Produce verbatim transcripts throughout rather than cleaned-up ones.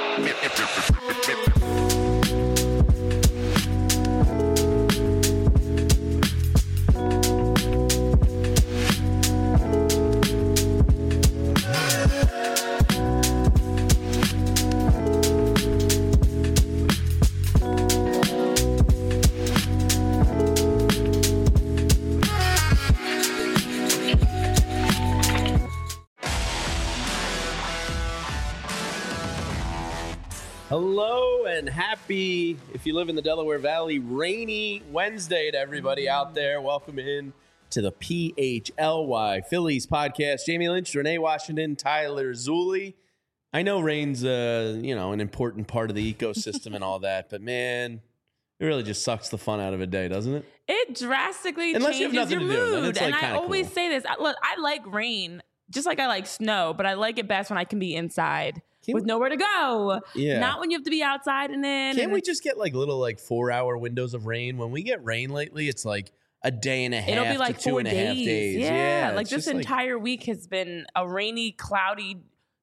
Hello and happy, if you live in the Delaware Valley, rainy Wednesday to everybody out there. Welcome in to the P H L Y Phillies podcast. Jamie Lynch, Renee Washington, Tyler Zulli. I know rain's uh, you know, an important part of the ecosystem and all that, but man, it really just sucks the fun out of a day, doesn't it? It drastically Unless you have changes nothing your to do, then mood. it's, like, and I kinda always cool. say this. I, look, I like rain just like I like snow, but I like it best when I can be inside Can with we- nowhere to go. Yeah. Not when you have to be outside and in. Can't and we it's- just get like little like four hour windows of rain? When we get rain lately, it's like a day and a half It'll be like to two four and a days. half days. Yeah, Yeah, like it's this just, like- entire week has been a rainy, cloudy,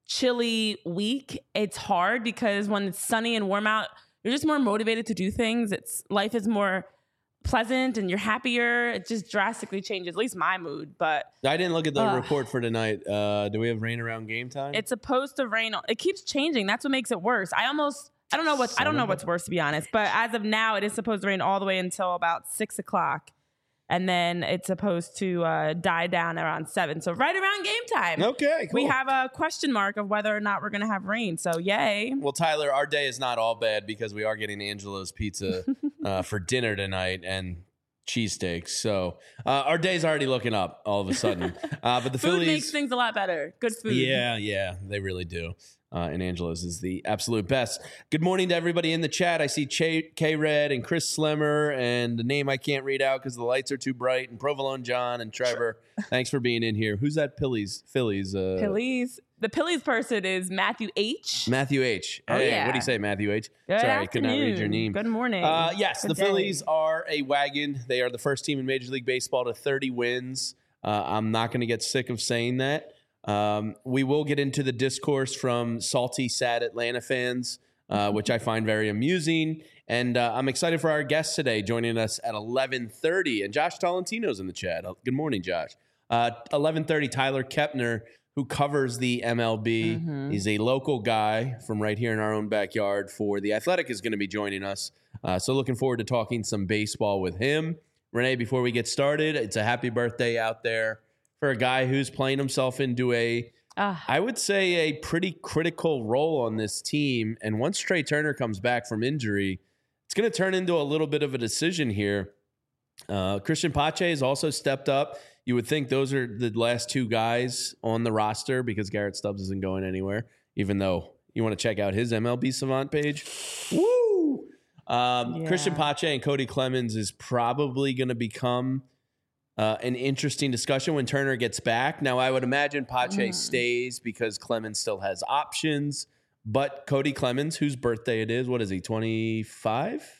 chilly week. It's hard because when it's sunny and warm out, you're just more motivated to do things. It's life is more pleasant and you're happier. It just drastically changes, at least my mood. But I didn't look at the Ugh. report for tonight. Uh, do we have rain around game time? it's supposed to rain. It keeps changing. That's what makes it worse. I almost, I don't know what's, I Son don't know of a- what's worse to be honest. But as of now, it is supposed to rain all the way until about six o'clock. And then it's supposed to uh, die down around seven. So right around game time. okay, cool. We have a question mark of whether or not we're going to have rain. So yay. Well, Tyler, our day is not all bad because we are getting Angelo's Pizza uh, for dinner tonight and cheesesteaks. So uh, our day's already looking up all of a sudden. Uh, but the Food Phillies makes things a lot better. Good food. Yeah, yeah, they really do. Uh, and Angelo's is the absolute best. Good morning to everybody in the chat. I see Ch- K-Red and Chris Slimmer and the name I can't read out because the lights are too bright, and Provolone John and Trevor. Thanks for being in here. Who's that Phillies? Phillies. Uh, Phillies. The Phillies person is Matthew H. Matthew H. Oh, Hey, yeah. what do you say, Matthew H? Good Sorry, I could not read your afternoon. name. Good morning. Uh, yes, Good the day. Phillies are a wagon. They are the first team in Major League Baseball to thirty wins. Uh, I'm not going to get sick of saying that. Um, we will get into the discourse from salty, sad Atlanta fans, uh, which I find very amusing. And uh, I'm excited for our guest today joining us at eleven thirty. And Josh Tolentino's in the chat. Uh, Good morning, Josh. Uh, eleven thirty, Tyler Kepner, who covers the M L B. Mhm. He's a local guy from right here in our own backyard for The Athletic, is going to be joining us. Uh, so looking forward to talking some baseball with him. Renee, before we get started, it's a happy birthday out there for a guy who's playing himself into a, Ah. I would say, a pretty critical role on this team. And once Trey Turner comes back from injury, it's going to turn into a little bit of a decision here. Uh, Christian Pache has also stepped up. You would think those are the last two guys on the roster because Garrett Stubbs isn't going anywhere, even though you want to check out his M L B Savant page. Woo! Um, Yeah. Christian Pache and Cody Clemens is probably going to become uh, an interesting discussion when Turner gets back. Now, I would imagine Pache Mm. stays because Clemens still has options, but Cody Clemens, whose birthday it is, what is he, twenty-five?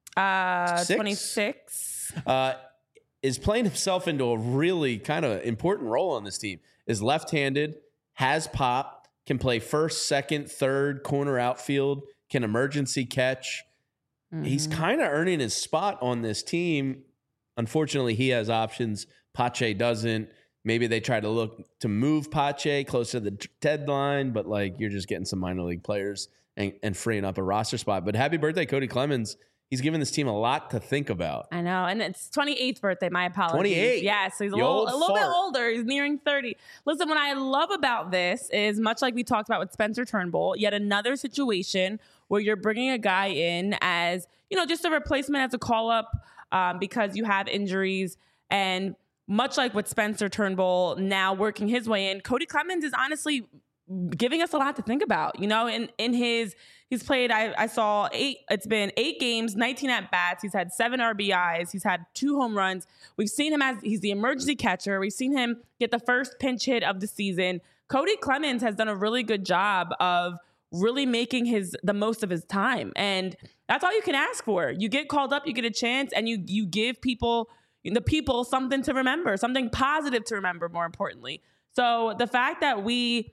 Uh, Six? twenty-six. Uh, is playing himself into a really kind of important role on this team. Is left-handed, has pop, can play first, second, third, corner outfield, can emergency catch. He's Mhm. kind of earning his spot on this team. Unfortunately, he has options. Pache doesn't. Maybe they try to look to move Pache closer to the t- deadline, but like you're just getting some minor league players and, and freeing up a roster spot. But happy birthday, Cody Clemens. He's given this team a lot to think about. I know, and it's twenty-eighth birthday. My apologies. twenty-eight? Yeah, so he's a You little, old a little bit fart. older. He's nearing thirty. Listen, what I love about this is much like we talked about with Spencer Turnbull, yet another situation where you're bringing a guy in as, you know, just a replacement as a call-up um, because you have injuries. And much like with Spencer Turnbull now working his way in, Cody Clemens is honestly giving us a lot to think about. You know, in, in his, he's played, I, I saw eight, it's been eight games, nineteen at-bats. He's had seven R B Is. He's had two home runs. We've seen him as, he's the emergency catcher. We've seen him get the first pinch hit of the season. Cody Clemens has done a really good job of really making his the most of his time. And that's all you can ask for. You get called up, you get a chance, and you you give people, the people something to remember, something positive to remember, more importantly. So the fact that we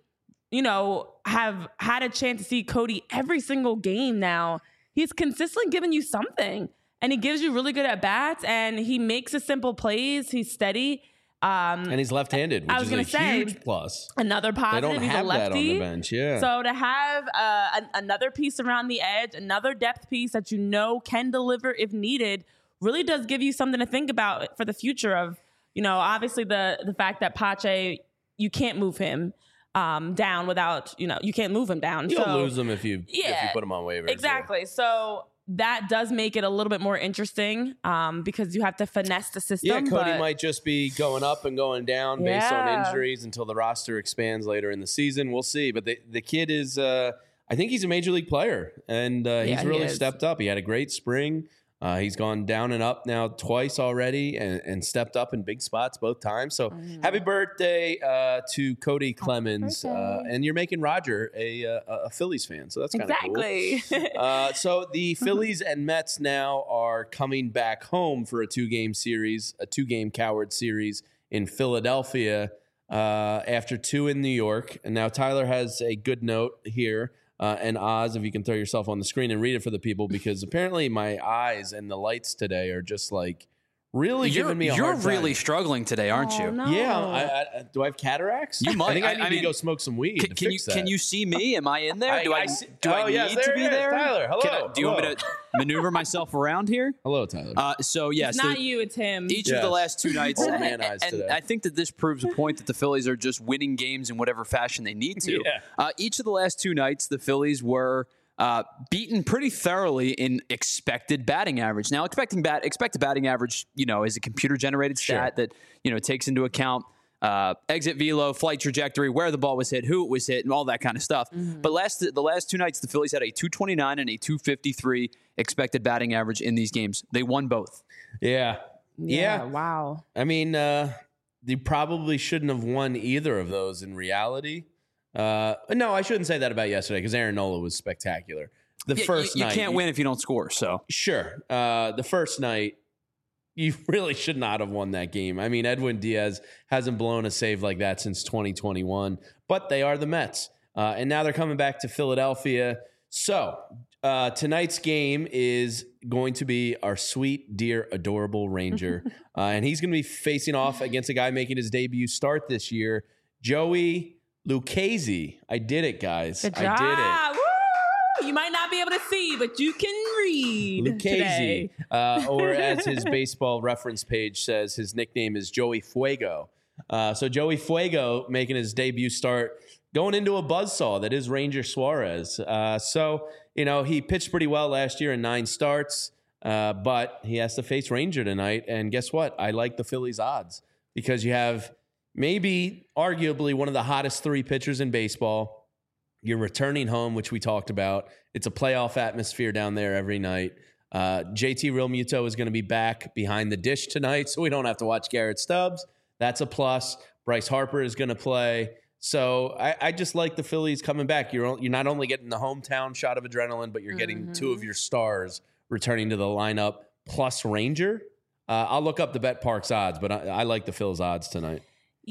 you know, have had a chance to see Cody every single game now, he's consistently giving you something. And he gives you really good at bats, and he makes the simple plays. He's steady. Um, and he's left-handed, which I was is a say, huge plus. Another positive. They don't he's have a lefty. that on the bench, yeah. So to have uh, an, another piece around the edge, another depth piece that you know can deliver if needed, really does give you something to think about for the future of, you know, obviously the the fact that Pache, you can't move him um, down without, you know, you can't move him down. You'll so, lose him if you, yeah, if you put him on waivers. Exactly. Yeah. So that does make it a little bit more interesting um, because you have to finesse the system. Yeah, Cody but, might just be going up and going down yeah. based on injuries until the roster expands later in the season. We'll see. But the, the kid is, uh, I think he's a major league player, and uh, he's yeah, really he stepped up. He had a great spring. Uh, he's gone down and up now twice already and, and stepped up in big spots both times. So mm. happy birthday uh, to Cody Clemens. Uh, and you're making Roger a, a, a Phillies fan. So that's kind of exactly. cool. uh, so the Phillies and Mets now are coming back home for a two-game series, a two-game Coward series in Philadelphia uh, after two in New York. And now Tyler has a good note here. Uh, and Oz, if you can throw yourself on the screen and read it for the people, because apparently my eyes and the lights today are just like really you're, giving me a You're hard time. really struggling today, aren't oh, you? No. Yeah. I, I, do I have cataracts? You might. I think I, I need I to mean, go smoke some weed. Can, to can fix you that. can you see me? Am I in there? I, do I, I see, do I oh, need yes, there to be is. there? Tyler, hello. Can I, do you hello. want me to maneuver myself around here? Hello, Tyler. Uh, so yes, it's not you, it's him. Each yes. of the last two nights, Old man eyes and today. I think that this proves a point that the Phillies are just winning games in whatever fashion they need to. Yeah. Uh, each of the last two nights, the Phillies were Uh, beaten pretty thoroughly in expected batting average. Now, expecting bat expected batting average, you know, is a computer generated stat sure. that, you know, takes into account uh, exit velo, flight trajectory, where the ball was hit, who it was hit, and all that kind of stuff. Mm-hmm. But last the last two nights, the Phillies had a two twenty-nine and a two fifty-three expected batting average in these games. They won both. Yeah. Yeah. Yeah. Wow. I mean, uh, they probably shouldn't have won either of those in reality. Uh, no, I shouldn't say that about yesterday because Aaron Nola was spectacular. The Yeah, first you, you night, can't win if you don't score. So Sure. Uh, the first night, you really should not have won that game. I mean, Edwin Diaz hasn't blown a save like that since twenty twenty-one, but they are the Mets. Uh, and now they're coming back to Philadelphia. So uh, tonight's game is going to be our sweet, dear, adorable Ranger. uh, and he's going to be facing off against a guy making his debut start this year, Joey Lucchesi. I did it, guys. Good job. I did it. Woo! You might not be able to see, but you can read. Lucchesi, uh, or as his baseball reference page says, his nickname is Joey Fuego. Uh, so Joey Fuego making his debut start, going into a buzzsaw that is Ranger Suarez. Uh, so, you know, he pitched pretty well last year in nine starts, uh, but he has to face Ranger tonight. And guess what? I like the Phillies odds because you have maybe arguably one of the hottest three pitchers in baseball. You're returning home, which we talked about. It's a playoff atmosphere down there every night. Uh, J T Realmuto is going to be back behind the dish tonight, so we don't have to watch Garrett Stubbs. That's a plus. Bryce Harper is going to play. So I, I just like the Phillies coming back. You're you're not only getting the hometown shot of adrenaline, but you're getting mm-hmm. two of your stars returning to the lineup plus Ranger. Uh, I'll look up the Bet Parks odds, but I, I like the Phillies odds tonight.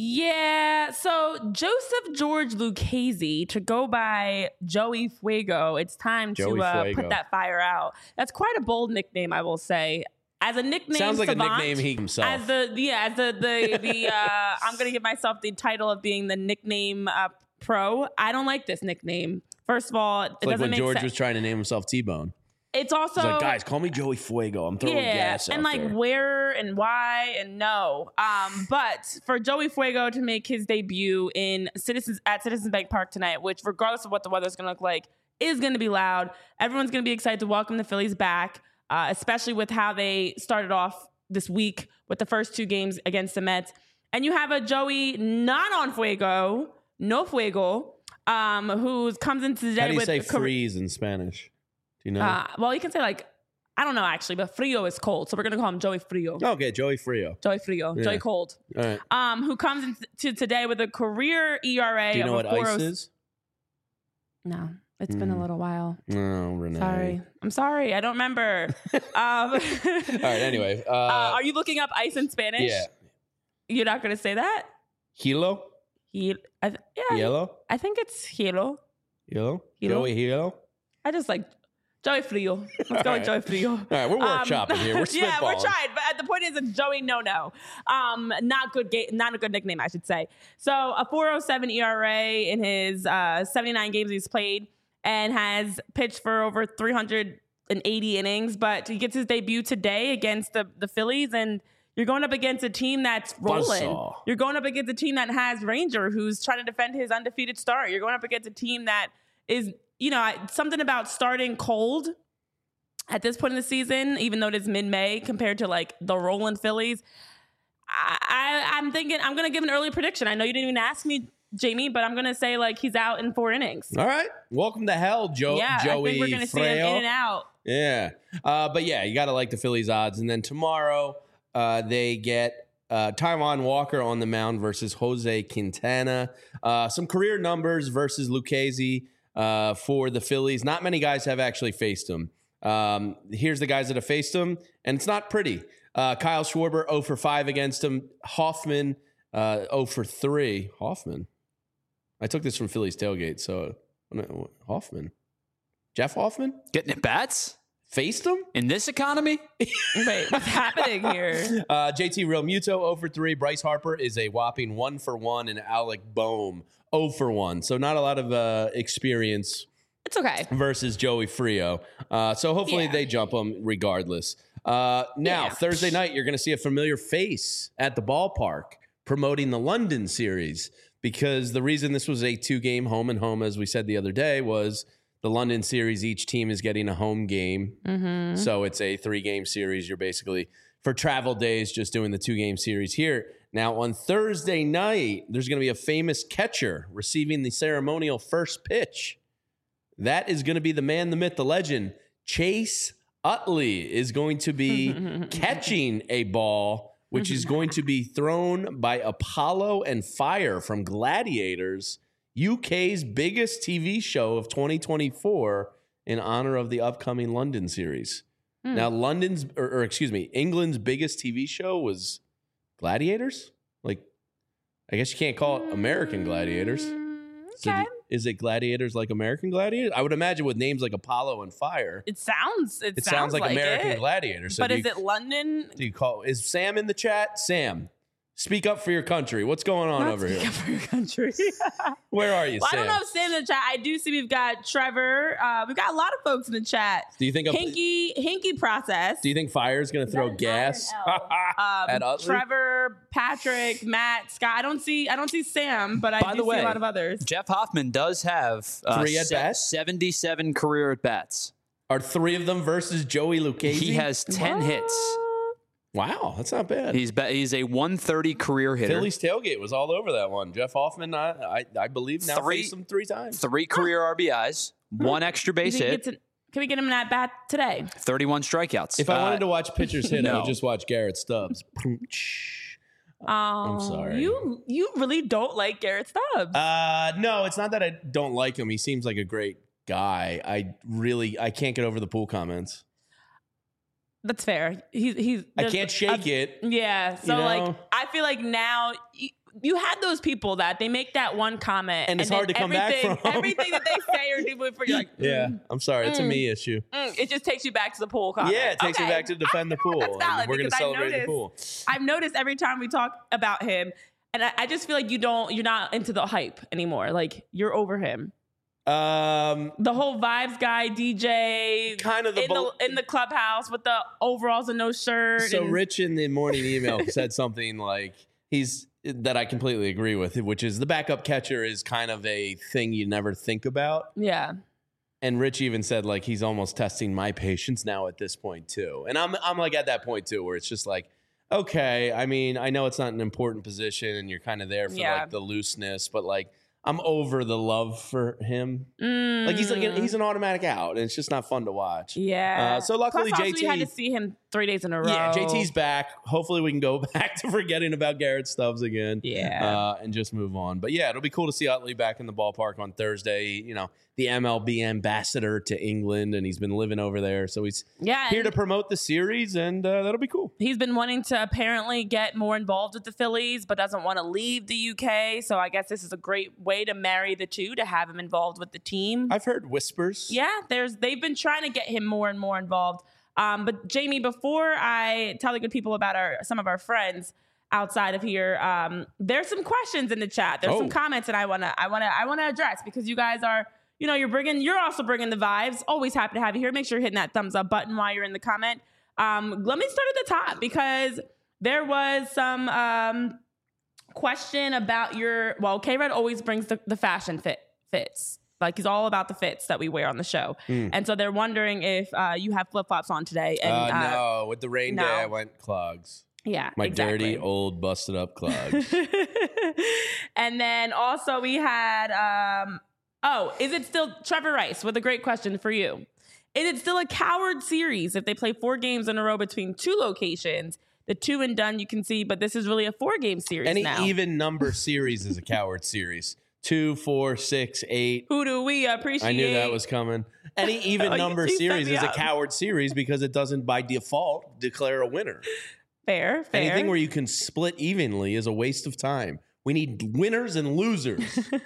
Yeah, so Joseph George Lucchesi, to go by Joey Fuego, it's time Joey to uh, Fuego. put that fire out. That's quite a bold nickname, I will say. As a nickname, sounds like savant, a nickname he himself. As the yeah, as the the the uh, I'm gonna give myself the title of being the nickname uh, pro. I don't like this nickname. First of all, it it's like doesn't when make George sense. was trying to name himself T-Bone. It's also He's like, guys, call me Joey Fuego. I'm throwing yeah, gas out and like there. where and why and no. Um, but for Joey Fuego to make his debut in Citizens at Citizens Bank Park tonight, which regardless of what the weather's going to look like, is going to be loud. Everyone's going to be excited to welcome the Phillies back, uh, especially with how they started off this week with the first two games against the Mets. And you have a Joey not on Fuego, no Fuego, um, who comes into today How do you with say car- freeze in Spanish? Do you know? Uh, well, you can say like, I don't know actually, but Frio is cold. So we're going to call him Joey Frio. Okay, Joey Frio. Joey Frio. Yeah. Joey Cold. All right. Um, who comes into today with a career E R A Do you know of what a ice four oh is? No, it's been a Mm. little while. No, Renee. Sorry. I'm sorry. I don't remember. um, All right, anyway. Uh, uh, are you looking up ice in Spanish? yeah. You're not going to say that? Hilo? He, I, th- yeah, Yellow? I think it's Hilo. Yellow? Hilo? Joey Hilo? I just like Joey Frio. Let's go with Joey Frio. All right, we're workshopping Um, here. We're spitballing. Yeah, we're trying. But the point is, it's Joey No No. Um, not good. Ga- not a good nickname, I should say. So a four oh seven E R A in his uh, seventy-nine games he's played, and has pitched for over three hundred eighty innings. But he gets his debut today against the the Phillies, and you're going up against a team that's rolling. Buzzsaw. You're going up against a team that has Ranger, who's trying to defend his undefeated start. You're going up against a team that is, you know, something about starting cold at this point in the season, even though it is mid-May compared to like the rolling Phillies. I, I, I'm thinking I'm going to give an early prediction. I know you didn't even ask me, Jamie, but I'm going to say like he's out in four innings. All right. Welcome to hell, Joe. Yeah, Joey I think we're going to see him Freo. in and out. Yeah. Uh, but yeah, you got to like the Phillies odds. And then tomorrow uh, they get uh, Taijuan Walker on the mound versus Jose Quintana. Uh, some career numbers versus Lucchesi uh, for the Phillies. Not many guys have actually faced him. Um, here's the guys that have faced him, and it's not pretty. Uh, Kyle Schwarber, oh for five against him. Hoffman, uh, oh for three. Hoffman? I took this from Phillies Tailgate, so Hoffman. Jeff Hoffman? Getting at bats Faced him? in this economy? Wait, what's happening here? Uh, J T Realmuto, oh for three. Bryce Harper is a whopping one for one. And Alec Boehm, oh for one. So not a lot of uh, experience It's okay. versus Joey Frio. Uh, so hopefully Yeah. they jump him regardless. Uh, now, Yeah. Thursday night, you're going to see a familiar face at the ballpark promoting the London series, because the reason this was a two-game home and home, as we said the other day, was the London series, each team is getting a home game. Mm-hmm. So it's a three-game series. You're basically, for travel days, just doing the two-game series here. Now, on Thursday night, there's going to be a famous catcher receiving the ceremonial first pitch. That is going to be the man, the myth, the legend. Chase Utley is going to be catching a ball, which is going to be thrown by Apollo and Fire from Gladiators, U K's biggest T V show of twenty twenty-four, in honor of the upcoming London series. Hmm. Now, London's, or, or excuse me, England's biggest T V show was Gladiators? Like, I guess you can't call it American Gladiators. Mm, So okay. do- is it Gladiators like American Gladiators? I would imagine with names like Apollo and Fire, It sounds. It, it sounds, like, American it. Gladiators. So But do is you, it London? do you call is Sam in the chat? Sam, speak up for your country. What's going on Not over speak here? up for your country. Where are you, Well, Sam? I don't know if Sam in the chat. I do see we've got Trevor. Uh, we've got a lot of folks in the chat. Do you think? Hinky, Hinky process. Do you think Fire's going to throw that an gas I or an at um, Utley? Trevor, Patrick, Matt, Scott. I don't see. I don't see Sam, but I By do the see way, a lot of others. Jeff Hoffman does have uh, Three at bats? seventy-seven career at bats. Are three of them versus Joey Lucchesi? He has ten hits. Wow, that's not bad. He's be- he's a one thirty career hitter. Phillies tailgate was all over that one. Jeff Hoffman, I I, I believe now Three- faced him three times. Three career R B Is, one extra You base think hit, it's an- Can we get him in that bat today? thirty-one strikeouts. If I Uh, wanted to watch pitchers hit, I no. would just watch Garrett Stubbs. Um, sorry. You you really don't like Garrett Stubbs. Uh, no, it's not that I don't like him. He seems like a great guy. I really, I can't get over the pool comments. That's fair. He's he's. I there's can't shake a- it. Yeah. So you know? like, I feel like now. You, you had those people that they make that one comment, And it's then hard to come back everything- from. Everything that they say or do for you, like, Yeah, I'm sorry. It's a Mm. me issue. mm, it just takes you back to the pool comment. Yeah, it takes me Okay. back to defend the pool. That's and valid we're going to because I celebrate the noticed- pool. I've noticed every time we talk about him, and I, I just feel like you don't, you're not into the hype anymore. Like you're over him. Um, The whole vibes guy, D J, kind of the, in bel- the in the clubhouse with the overalls and no shirt. So and, Rich in the morning email said something like he's that I completely agree with, which is the backup catcher is kind of a thing you never think about. yeah, And Rich even said like he's almost testing my patience now at this point too. And I'm I'm like at that point too where it's just like, okay, I mean, I know it's not an important position and you're kind of there for Yeah. like the looseness, but like I'm over the love for him. Mm. Like he's like an, he's an automatic out, and it's just not fun to watch. yeah. Uh, so luckily Plus, also, J T we had to see him three days in a row. Yeah, J T's back. Hopefully, we can go back to forgetting about Garrett Stubbs again. Yeah. uh, and just move on. But yeah, it'll be cool to see Utley back in the ballpark on Thursday. You know, the M L B ambassador to England, and he's been living over there. So he's Yeah, here and- to promote the series, and uh, that'll be cool. He's been wanting to apparently get more involved with the Phillies, but doesn't want to leave the U K. So I guess this is a great way to marry the two, to have him involved with the team. I've heard whispers. Yeah, there's they've been trying to get him more and more involved. Um, but Jamie, before I tell the good people about our some of our friends outside of here, um, there's some questions in the chat. There's Oh. some comments that I wanna I wanna I wanna address, because you guys are. You know, you're bringing, you're also bringing the vibes. Always happy to have you here. Make sure you're hitting that thumbs up button while you're in the comment. Um, let me start at the top, because there was some um, question about your, well, K-Red always brings the, the fashion fit fits. Like, he's all about the fits that we wear on the show. Mm. And so they're wondering if uh, you have flip-flops on today. And, uh, uh, no, with the rain no. day, I went clogs. Yeah, My exactly. dirty, old, busted up clogs. And then also we had, um, oh, is it still Trevor Rice with a great question for you? Is it still a coward series if they play four games in a row between two locations? The two and done you can see, but this is really a four game series Any now. even number series is a coward series. Two, four, six, eight. Who do we appreciate? I knew that was coming. Any even Oh, you- number you set series me is a up. coward series because it doesn't by default declare a winner. fair, fair. Anything where you can split evenly is a waste of time. We need winners and losers.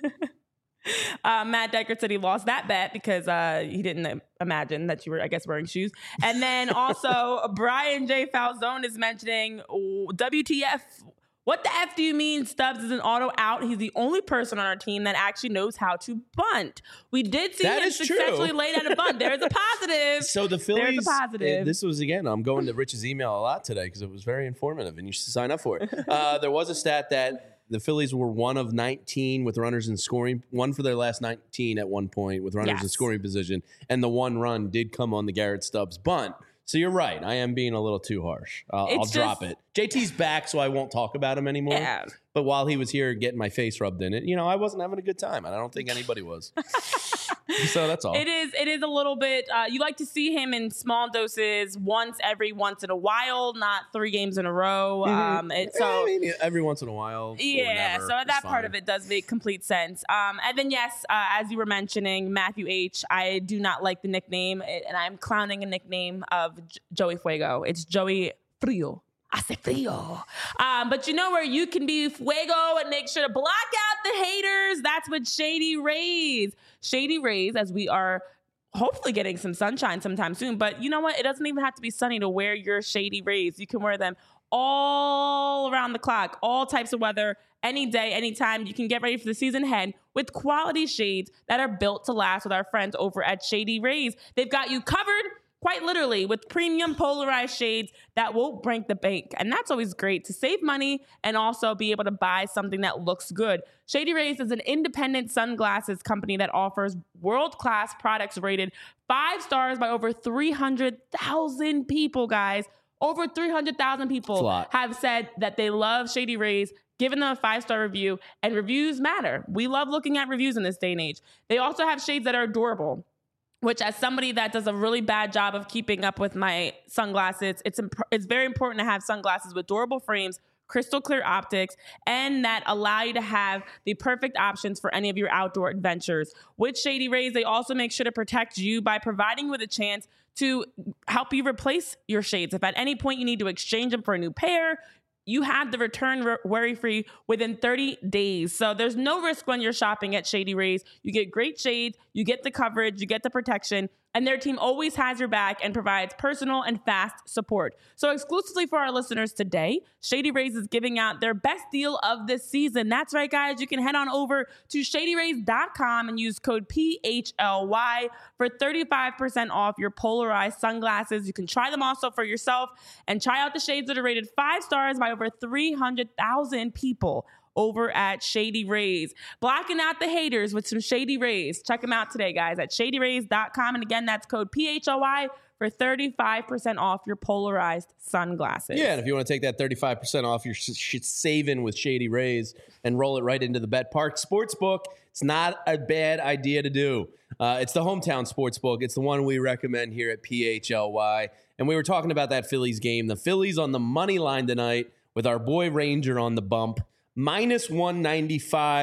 Uh, Matt Decker said he lost that bet because uh, he didn't uh, imagine that you were, I guess, wearing shoes. And then also Brian J. Falzone is mentioning oh, W T F. What the F do you mean Stubbs is an auto out? He's the only person on our team that actually knows how to bunt. We did see That him is true. successfully lay down a bunt. There's a positive. So the Phillies, There's a positive. uh, this was, again, I'm going to Rich's email a lot today because it was very informative and you should sign up for it. Uh, there was a stat that the Phillies were one of nineteen with runners in scoring, one for their last nineteen at one point with runners in Yes. scoring position. And the one run did come on the Garrett Stubbs bunt. So you're right. I am being a little too harsh. I'll, I'll It's drop just- it. J T's back, so I won't talk about him anymore. Yeah. But while he was here getting my face rubbed in it, you know, I wasn't having a good time. And I don't think anybody was. So that's all. It is. It is a little bit. Uh, you like to see him in small doses, once every once in a while, not three games in a row. Um, it, so I mean, every once in a while. yeah, whenever, so it's that part fine. of it does make complete sense. Um, and then yes, uh, as you were mentioning, Matthew H. I do not like the nickname, and I'm clowning a nickname of J- Joey Fuego. It's Joey Frio. Hace frio. Um, but you know where you can be fuego and make sure to block out the haters? That's with Shady Rays. Shady Rays, as we are hopefully getting some sunshine sometime soon. But you know what? It doesn't even have to be sunny to wear your Shady Rays. You can wear them all around the clock, all types of weather, any day, anytime. You can get ready for the season ahead with quality shades that are built to last with our friends over at Shady Rays. They've got you covered, quite literally, with premium polarized shades that will break the bank. And that's always great to save money and also be able to buy something that looks good. Shady Rays is an independent sunglasses company that offers world-class products rated five stars by over three hundred thousand people, guys. Over three hundred thousand people It's a lot. have said that they love Shady Rays, given them a five-star review, and reviews matter. We love looking at reviews in this day and age. They also have shades that are adorable, which, as somebody that does a really bad job of keeping up with my sunglasses, it's imp- it's very important to have sunglasses with durable frames, crystal clear optics, and that allow you to have the perfect options for any of your outdoor adventures. With Shady Rays, they also make sure to protect you by providing you with a chance to help you replace your shades. If at any point you need to exchange them for a new pair, you have the return r- worry-free within thirty days. So there's no risk when you're shopping at Shady Rays. You get great shades, you get the coverage, you get the protection, and their team always has your back and provides personal and fast support. So exclusively for our listeners today, Shady Rays is giving out their best deal of this season. That's right, guys. You can head on over to shady rays dot com and use code P H L Y for thirty-five percent off your polarized sunglasses. You can try them also for yourself and try out the shades that are rated five stars by over three hundred thousand people over at Shady Rays. Blocking out the haters with some Shady Rays. Check them out today, guys, at shady rays dot com. And again, that's code P H L Y for thirty-five percent off your polarized sunglasses. Yeah, and if you want to take that thirty-five percent off your sh- sh- saving with Shady Rays and roll it right into the Bet Park Sportsbook, it's not a bad idea to do. Uh, it's the hometown sportsbook. It's the one we recommend here at P H L Y. And we were talking about that Phillies game. The Phillies on the money line tonight with our boy Ranger on the bump. minus one ninety-five. If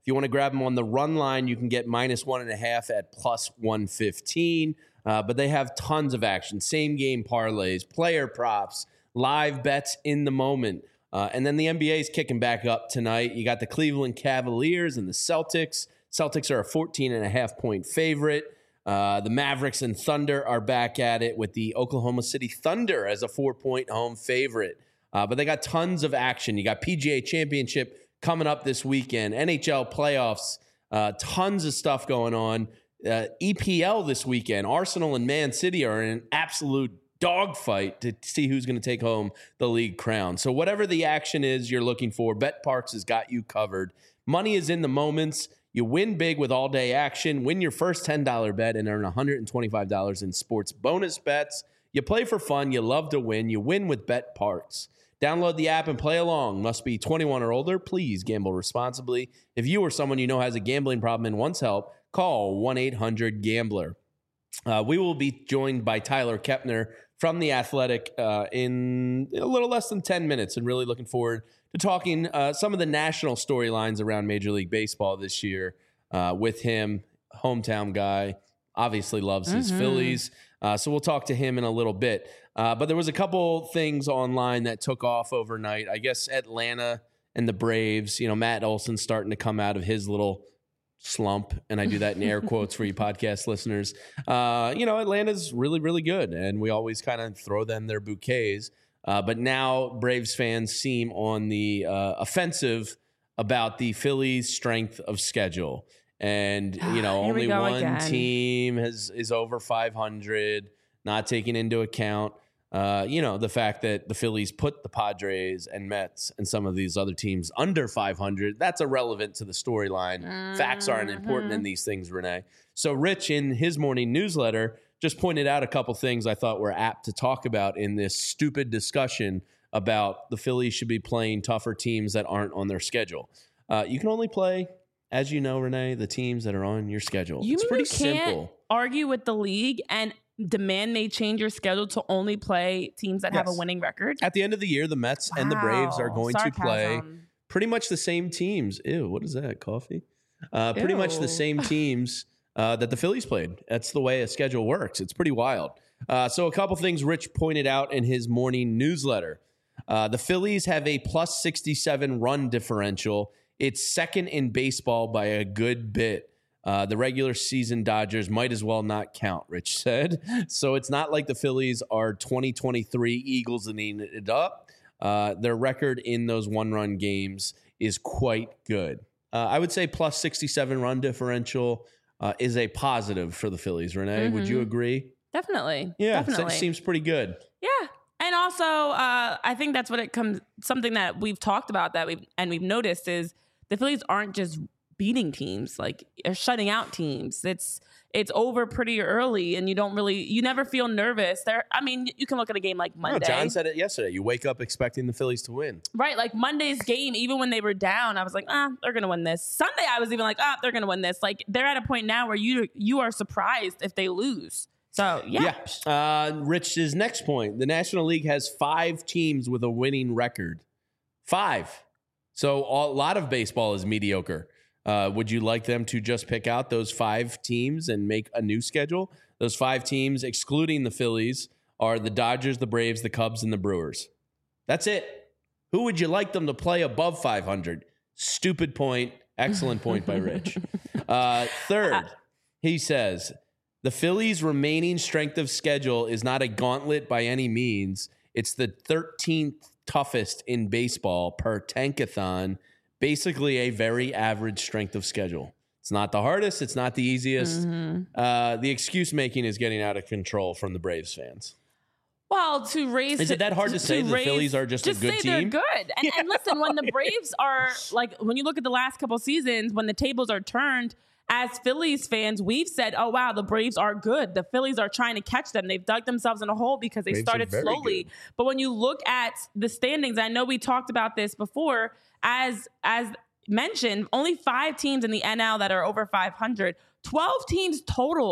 If you want to grab them on the run line, you can get minus one and a half at plus one fifteen. Uh, but they have tons of action. Same game parlays, player props, live bets in the moment. Uh, and then the N B A is kicking back up tonight. You got the Cleveland Cavaliers and the Celtics. Celtics are a fourteen and a half point favorite. Uh, the Mavericks and Thunder are back at it with the Oklahoma City Thunder as a four-point home favorite. Uh, but they got tons of action. You got P G A Championship coming up this weekend, N H L playoffs, uh, tons of stuff going on. Uh, E P L this weekend. Arsenal and Man City are in an absolute dogfight to see who's going to take home the league crown. So whatever the action is you're looking for, BetParx has got you covered. Money is in the moments. You win big with all-day action. Win your first ten dollars bet and earn one hundred twenty-five dollars in sports bonus bets. You play for fun. You love to win. You win with BetParx. Download the app and play along. Must be twenty-one or older. Please gamble responsibly. If you or someone you know has a gambling problem and wants help, call one eight hundred gambler. Uh, we will be joined by Tyler Kepner from The Athletic uh, in a little less than ten minutes, and really looking forward to talking uh, some of the national storylines around Major League Baseball this year uh, with him. Hometown guy, obviously loves his mm-hmm. Phillies. Uh, so we'll talk to him in a little bit. Uh, but there was a couple things online that took off overnight. I guess Atlanta and the Braves, you know, Matt Olson starting to come out of his little slump, and I do that in air quotes for you podcast listeners. Uh, you know, Atlanta's really, really good, and we always kind of throw them their bouquets. Uh, but now Braves fans seem on the uh, offensive about the Phillies' strength of schedule. And, you know, only one again. team has is over five hundred, not taking into account, uh, you know, the fact that the Phillies put the Padres and Mets and some of these other teams under five hundred. That's irrelevant to the storyline. Mm-hmm. Facts aren't important in these things, Renee. So Rich, in his morning newsletter, just pointed out a couple things I thought were apt to talk about in this stupid discussion about the Phillies should be playing tougher teams that aren't on their schedule. Uh, you can only play, as you know, Renee, the teams that are on your schedule. You it's mean pretty you can't simple. Argue with the league and demand they change your schedule to only play teams that yes. have a winning record? At the end of the year, the Mets wow. and the Braves are going Sarcasm. to play pretty much the same teams. Ew, what is that, coffee? Uh, pretty much the same teams uh, that the Phillies played. That's the way a schedule works. It's pretty wild. Uh, so a couple things Rich pointed out in his morning newsletter. Uh, the Phillies have a plus sixty-seven run differential. It's second in baseball by a good bit. Uh, the regular season Dodgers might as well not count, Rich said. So it's not like the Phillies are twenty twenty-three Eagles and eating it up. Uh, their record in those one-run games is quite good. Uh, I would say plus sixty-seven run differential uh, is a positive for the Phillies. Renee, mm-hmm. would you agree? Definitely. Yeah, definitely. It seems pretty good. Yeah. And also, uh, I think that's what it comes, something that we've talked about that we've, and we've noticed is the Phillies aren't just beating teams, like they're shutting out teams. It's it's over pretty early, and you don't really, you never feel nervous. There, I mean, you can look at a game like Monday. No, John said it yesterday. You wake up expecting the Phillies to win. Right, like Monday's game, even when they were down, I was like, ah, they're going to win this. Sunday, I was even like, ah, they're going to win this. Like they're at a point now where you you are surprised if they lose. So, yeah. yeah. Uh, Rich's next point. The National League has five teams with a winning record. Five. So a lot of baseball is mediocre. Uh, would you like them to just pick out those five teams and make a new schedule? Those five teams, excluding the Phillies, are the Dodgers, the Braves, the Cubs, and the Brewers. That's it. Who would you like them to play above five hundred? Stupid point. Excellent point by Rich. Uh, third, he says, the Phillies' remaining strength of schedule is not a gauntlet by any means. It's the thirteenth toughest in baseball per Tankathon. Basically a very average strength of schedule. It's not the hardest. It's not the easiest. Mm-hmm. Uh, the excuse making is getting out of control from the Braves fans. Well, to raise... Is it that hard to, to say to the raise, Phillies are just, just a good say team? They're good. And, and listen, when the Braves are... Like, when you look at the last couple seasons, when the tables are turned, as Phillies fans, we've said, oh, wow, the Braves are good. The Phillies are trying to catch them. They've dug themselves in a hole because they Braves started slowly. Good. But when you look at the standings, I know we talked about this before, as as... mentioned, only five teams in the N L that are over five hundred. twelve teams total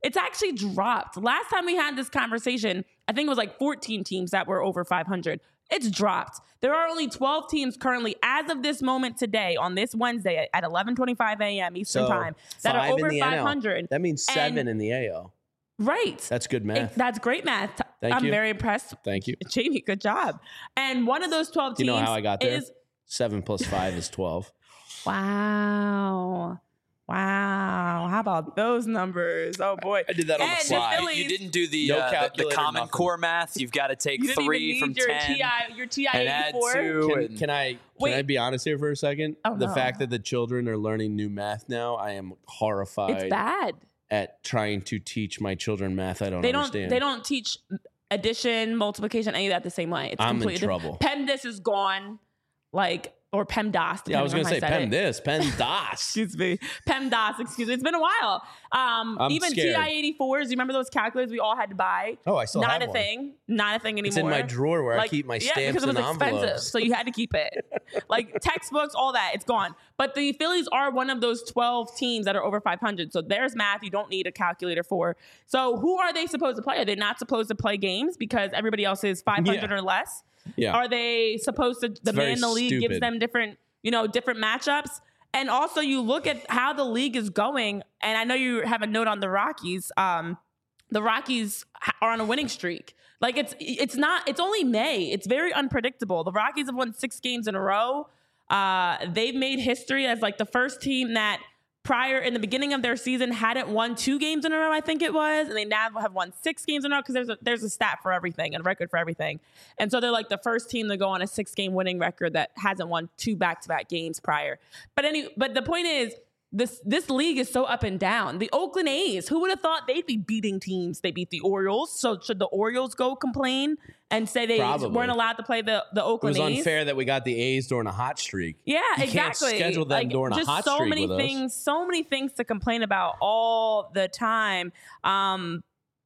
It's actually dropped. Last time we had this conversation, I think it was like fourteen teams that were over five hundred. It's dropped. There are only twelve teams currently, as of this moment today, on this Wednesday at eleven twenty-five a.m. Eastern So, Time, that are five over in the N L. five hundred. That means seven And- in the A L. Right. That's good math. It- that's great math. Thank I'm you. very impressed. Thank you. Jamie, good job. And one of those twelve Do teams you know how I got there? is Seven plus five is twelve. wow. Wow. How about those numbers? Oh boy. I did that on the And fly. Phillies- You didn't do the No uh, the, the calculator, Common nothing. Core math. You've got to take You didn't three even from need your ten T I your T I and add eighty-four. two. Can, and- can I can Wait. I be honest here for a second? Oh, the no. fact that the children are learning new math now, I am horrified It's bad. at trying to teach my children math I don't They don't understand. they don't teach addition, multiplication, any of that the same way. It's I'm in completely trouble. PEMDAS is gone. Like or PEMDAS. Yeah, I was going gonna to say pen this, pen das. Excuse me. PEMDAS, excuse me. It's been a while. Um, I'm even scared. T I eighty-fours, you remember those calculators we all had to buy? Oh, I still Not have a one. thing. Not a thing anymore. It's in my drawer where I Like, keep my yeah, stamps because it was and expensive, envelopes. so you had to keep it. Like textbooks, all that, it's gone. But the Phillies are one of those twelve teams that are over five hundred. So there's math you don't need a calculator for. So who are they supposed to play? Are they not supposed to play games because everybody else is five hundred Yeah. or less? Yeah. Are they supposed to? The very man in the league gives stupid. them different, you know, different matchups. And also, you look at how the league is going, and I know you have a note on the Rockies. Um, the Rockies ha- are on a winning streak. Like it's it's not. It's only May. It's very unpredictable. The Rockies have won six games in a row. Uh, they've made history as like the first team that prior in the beginning of their season hadn't won two games in a row, I think it was, and they now have won six games in a row because there's a, there's a stat for everything and a record for everything. And so they're like the first team to go on a six game winning record that hasn't won two back to back games prior. But any, but the point is, this this league is so up and down. The Oakland A's, who would have thought they'd be beating teams? They beat the Orioles. So should the Orioles go complain and say they Probably. weren't allowed to play the, the It Oakland was A's? unfair that we got the A's during a hot streak. Yeah, You exactly. can't schedule them like, during a just hot so streak many with us. things, so many things to complain about all the time. Um,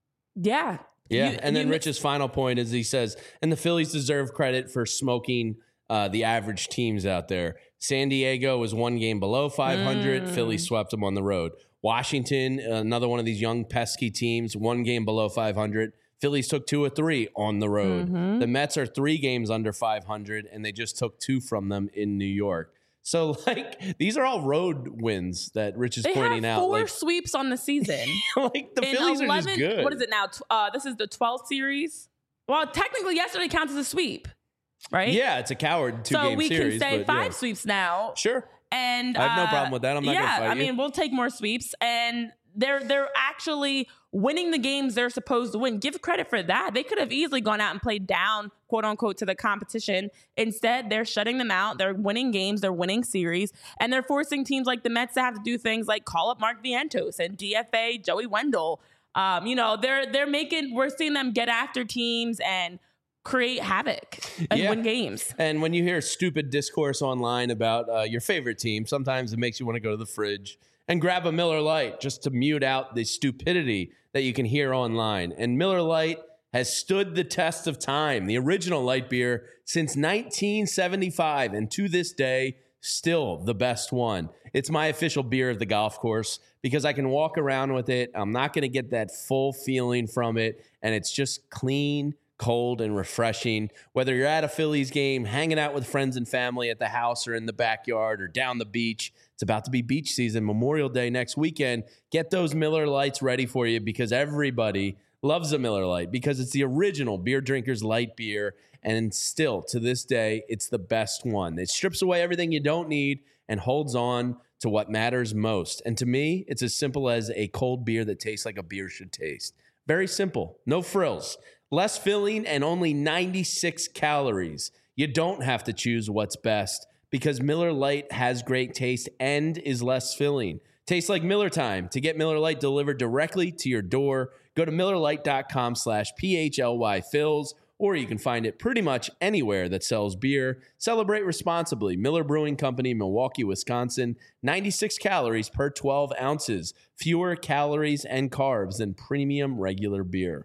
yeah, Yeah, You- and then you- Rich's final point is he says, and the Phillies deserve credit for smoking uh, the average teams out there. San Diego was one game below five hundred. Mm. Phillies swept them on the road. Washington, another one of these young pesky teams, one game below five hundred. Phillies took two or three on the road. Mm-hmm. The Mets are three games under five hundred, and they just took two from them in New York. So, like, these are all road wins that Rich is They pointing have out. four Like, sweeps on the season. like the In Phillies are just eleven good. What is it now? Tw- Uh, this is the twelfth series. Well, technically, yesterday counts as a sweep, right? Yeah, it's a coward two So game we series. can say but five yeah. sweeps now. Sure. And I have no uh, problem with that. I'm not yeah, gonna fight I you. mean, we'll take more sweeps, and they're they're actually winning the games they're supposed to win. Give credit for that. They could have easily gone out and played down, quote unquote, to the competition. Instead, they're shutting them out. They're winning games. They're winning series, and they're forcing teams like the Mets to have to do things like call up Mark Vientos and D F A Joey Wendell. Um, you know, they're they're making. We're seeing them get after teams and create havoc and Yeah. win games. And when you hear stupid discourse online about uh, your favorite team, sometimes it makes you want to go to the fridge and grab a Miller Lite just to mute out the stupidity that you can hear online. And Miller Lite has stood the test of time, the original light beer since nineteen seventy-five, and to this day, still the best one. It's my official beer of the golf course because I can walk around with it. I'm not going to get that full feeling from it, and it's just clean, cold, and refreshing. Whether you're at a Phillies game, hanging out with friends and family at the house or in the backyard or down the beach, it's about to be beach season, Memorial Day next weekend. Get those Miller Lights ready for you because everybody loves a Miller Lite because it's the original beer drinkers light beer. And still, to this day, it's the best one. It strips away everything you don't need and holds on to what matters most. And to me, it's as simple as a cold beer that tastes like a beer should taste. Very simple. No frills. Less filling and only ninety-six calories. You don't have to choose what's best because Miller Lite has great taste and is less filling. Tastes like Miller time. To get Miller Lite delivered directly to your door, go to MillerLite.com slash PHLY Fills, or you can find it pretty much anywhere that sells beer. Celebrate responsibly. Miller Brewing Company, Milwaukee, Wisconsin. ninety-six calories per twelve ounces. Fewer calories and carbs than premium regular beer.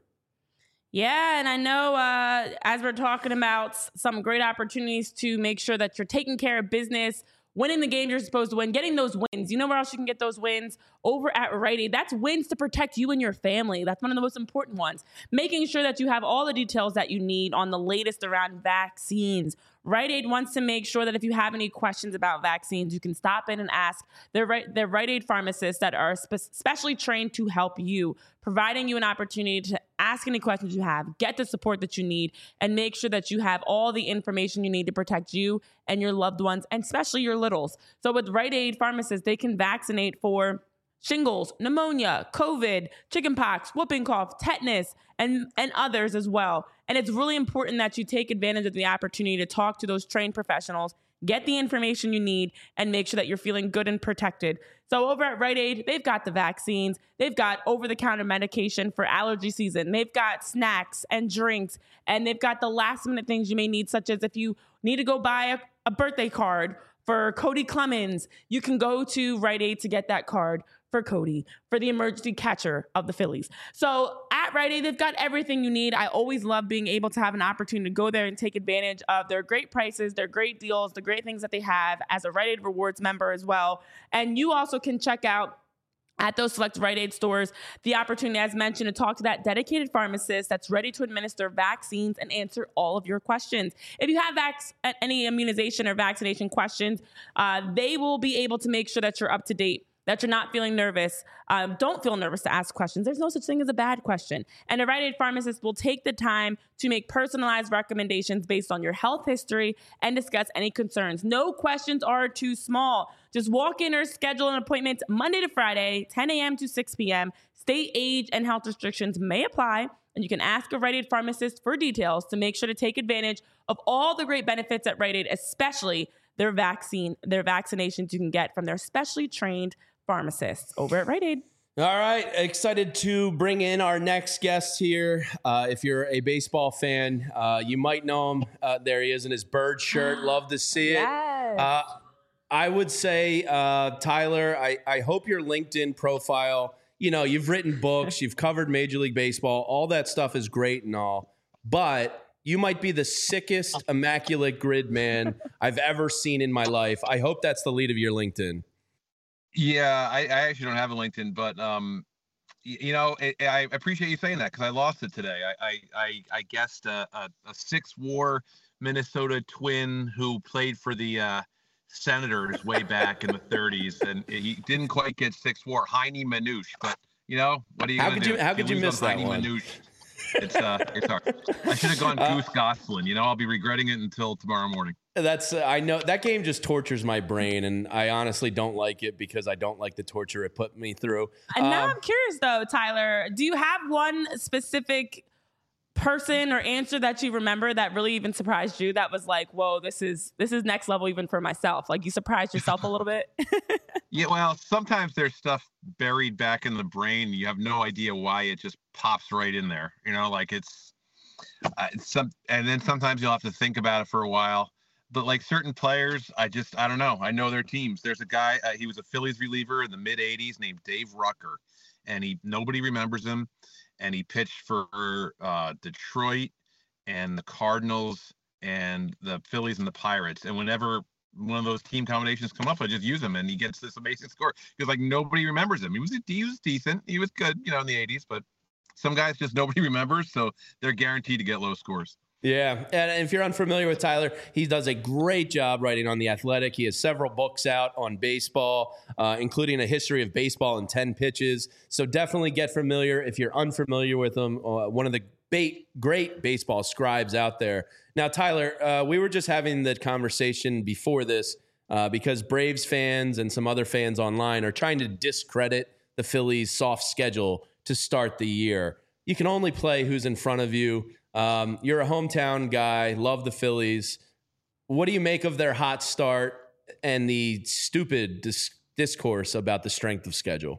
Yeah, and I know uh, as we're talking about s- some great opportunities to make sure that you're taking care of business winning the game you're supposed to win, getting those wins. You know where else you can get those wins? Over at Rite Aid. That's wins to protect you and your family. That's one of the most important ones. Making sure that you have all the details that you need on the latest around vaccines. Rite Aid wants to make sure that if you have any questions about vaccines, you can stop in and ask their, their Rite Aid pharmacists that are spe- specially trained to help you, providing you an opportunity to ask any questions you have, get the support that you need, and make sure that you have all the information you need to protect you and your loved ones, and especially your littles. So with Rite Aid pharmacists, they can vaccinate for shingles, pneumonia, COVID, chickenpox, whooping cough, tetanus, and, and others as well. And it's really important that you take advantage of the opportunity to talk to those trained professionals, get the information you need, and make sure that you're feeling good and protected. So over at Rite Aid, they've got the vaccines, they've got over-the-counter medication for allergy season, they've got snacks and drinks, and they've got the last-minute things you may need, such as if you need to go buy a, a birthday card for Cody Clemens, you can go to Rite Aid to get that card for Cody, for the emergency catcher of the Phillies. So at Rite Aid, they've got everything you need. I always love being able to have an opportunity to go there and take advantage of their great prices, their great deals, the great things that they have as a Rite Aid Rewards member as well. And you also can check out at those select Rite Aid stores the opportunity, as mentioned, to talk to that dedicated pharmacist that's ready to administer vaccines and answer all of your questions. If you have vac- any immunization or vaccination questions, uh, they will be able to make sure that you're up to date, that you're not feeling nervous. Um, don't feel nervous to ask questions. There's no such thing as a bad question. And a Rite Aid pharmacist will take the time to make personalized recommendations based on your health history and discuss any concerns. No questions are too small. Just walk in or schedule an appointment Monday to Friday, ten a.m. to six p.m. State age and health restrictions may apply, and you can ask a Rite Aid pharmacist for details to make sure to take advantage of all the great benefits at Rite Aid, especially their vaccine, their vaccinations you can get from their specially trained pharmacists over at Rite Aid. All right. Excited to bring in our next guest here. Uh, if you're a baseball fan, uh, you might know him. Uh, there he is in his bird shirt. Love to see it. Yes. Uh, I would say, uh, Tyler, I, I hope your LinkedIn profile, you know, you've written books, you've covered Major League Baseball. All that stuff is great and all, but you might be the sickest immaculate grid man I've ever seen in my life. I hope that's the lead of your LinkedIn. Yeah, I, I actually don't have a LinkedIn, but um, you, you know, it, I appreciate you saying that because I lost it today. I I I, I guessed a, a, a six-war Minnesota Twin who played for the uh, Senators way back in the thirties, and he didn't quite get six-war. Heine Manouche, but you know what are you How gonna could do? you? How could you miss that Heine one? Manouche. It's uh, it's hard. I should have gone Uh, Goose Goslin. You know, I'll be regretting it until tomorrow morning. That's uh, I know that game just tortures my brain, and I honestly don't like it because I don't like the torture it put me through. And now Um, I'm curious though, Tyler, do you have one specific person or answer that you remember that really even surprised you, that was like, whoa, this is this is next level even for myself? Like you surprised yourself a little bit? Yeah, well, sometimes there's stuff buried back in the brain. You have no idea why it just pops right in there. You know, like it's, uh, it's some, and then sometimes you'll have to think about it for a while. But like certain players, I just, I don't know. I know their teams. There's a guy, uh, he was a Phillies reliever in the mid eighties named Dave Rucker, and he nobody remembers him. And he pitched for uh, Detroit and the Cardinals and the Phillies and the Pirates. And whenever one of those team combinations come up, I just use him, and he gets this amazing score because like nobody remembers him. He was he was decent, he was good, you know, in the eighties, but some guys just nobody remembers, so they're guaranteed to get low scores. Yeah, and if you're unfamiliar with Tyler, he does a great job writing on The Athletic. He has several books out on baseball, uh, including a history of baseball in ten pitches. So definitely get familiar if you're unfamiliar with him. Uh, one of the ba- great baseball scribes out there. Now, Tyler, uh, we were just having the conversation before this uh, because Braves fans and some other fans online are trying to discredit the Phillies' soft schedule to start the year. You can only play who's in front of you. Um, you're a hometown guy, love the Phillies. What do you make of their hot start and the stupid dis- discourse about the strength of schedule?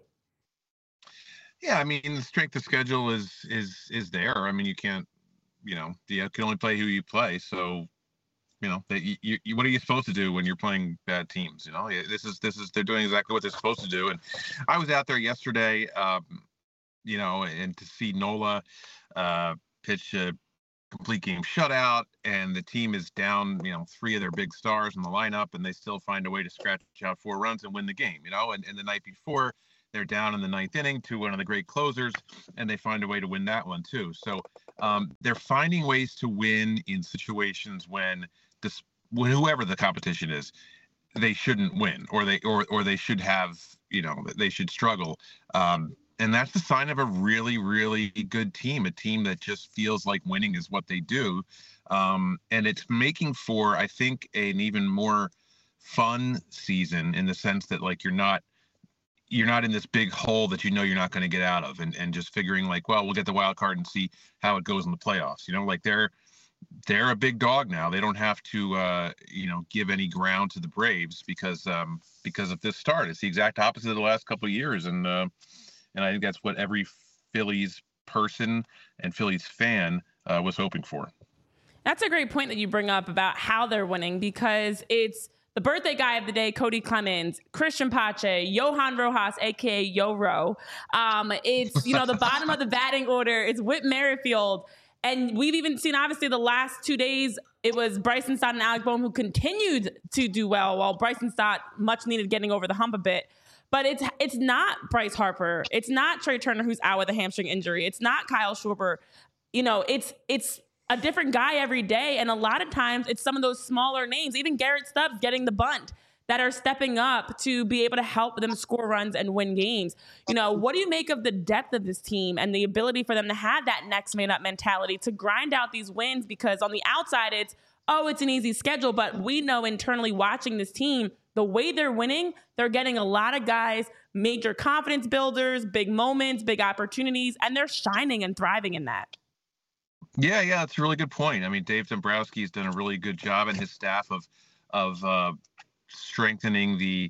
Yeah, I mean, the strength of schedule is is is there. I mean, you can't, you know, you can only play who you play. So, you know, you, you, you, what are you supposed to do when you're playing bad teams? You know, this is this is they're doing exactly what they're supposed to do. And I was out there yesterday, um, you know, and to see Nola uh, pitch a complete game shutout and the team is down, you know, three of their big stars in the lineup, and they still find a way to scratch out four runs and win the game, you know, and, and the night before they're down in the ninth inning to one of the great closers and they find a way to win that one too. So um, they're finding ways to win in situations when this, when whoever the competition is, they shouldn't win, or they, or, or they should have, you know, they should struggle. Um, And that's the sign of a really, really good team, a team that just feels like winning is what they do. Um, and it's making for, I think, an even more fun season in the sense that, like, you're not you're not in this big hole that you know you're not going to get out of, and, and just figuring like, well, we'll get the wild card and see how it goes in the playoffs. You know, like they're they're a big dog now. They don't have to, uh, you know, give any ground to the Braves because um, because of this start. It's the exact opposite of the last couple of years, and uh, and I think that's what every Phillies person and Phillies fan uh, was hoping for. That's a great point that you bring up about how they're winning, because it's the birthday guy of the day, Cody Clemens, Christian Pache, Johan Rojas, a k a. Yo-Ro. Um, it's, you know, the bottom of the batting order. It's Whit Merrifield. And we've even seen, obviously, the last two days, it was Bryson Stott and Alec Bohm who continued to do well, while Bryson Stott much needed getting over the hump a bit. But it's it's not Bryce Harper. It's not Trey Turner, who's out with a hamstring injury. It's not Kyle Schwarber. You know, it's it's a different guy every day. And a lot of times it's some of those smaller names, even Garrett Stubbs getting the bunt, that are stepping up to be able to help them score runs and win games. You know, what do you make of the depth of this team and the ability for them to have that next man up mentality to grind out these wins? Because on the outside, it's, oh, it's an easy schedule. But we know internally watching this team, the way they're winning, they're getting a lot of guys, major confidence builders, big moments, big opportunities, and they're shining and thriving in that. Yeah, yeah, that's a really good point. I mean, Dave Dombrowski has done a really good job, and his staff of of uh, strengthening the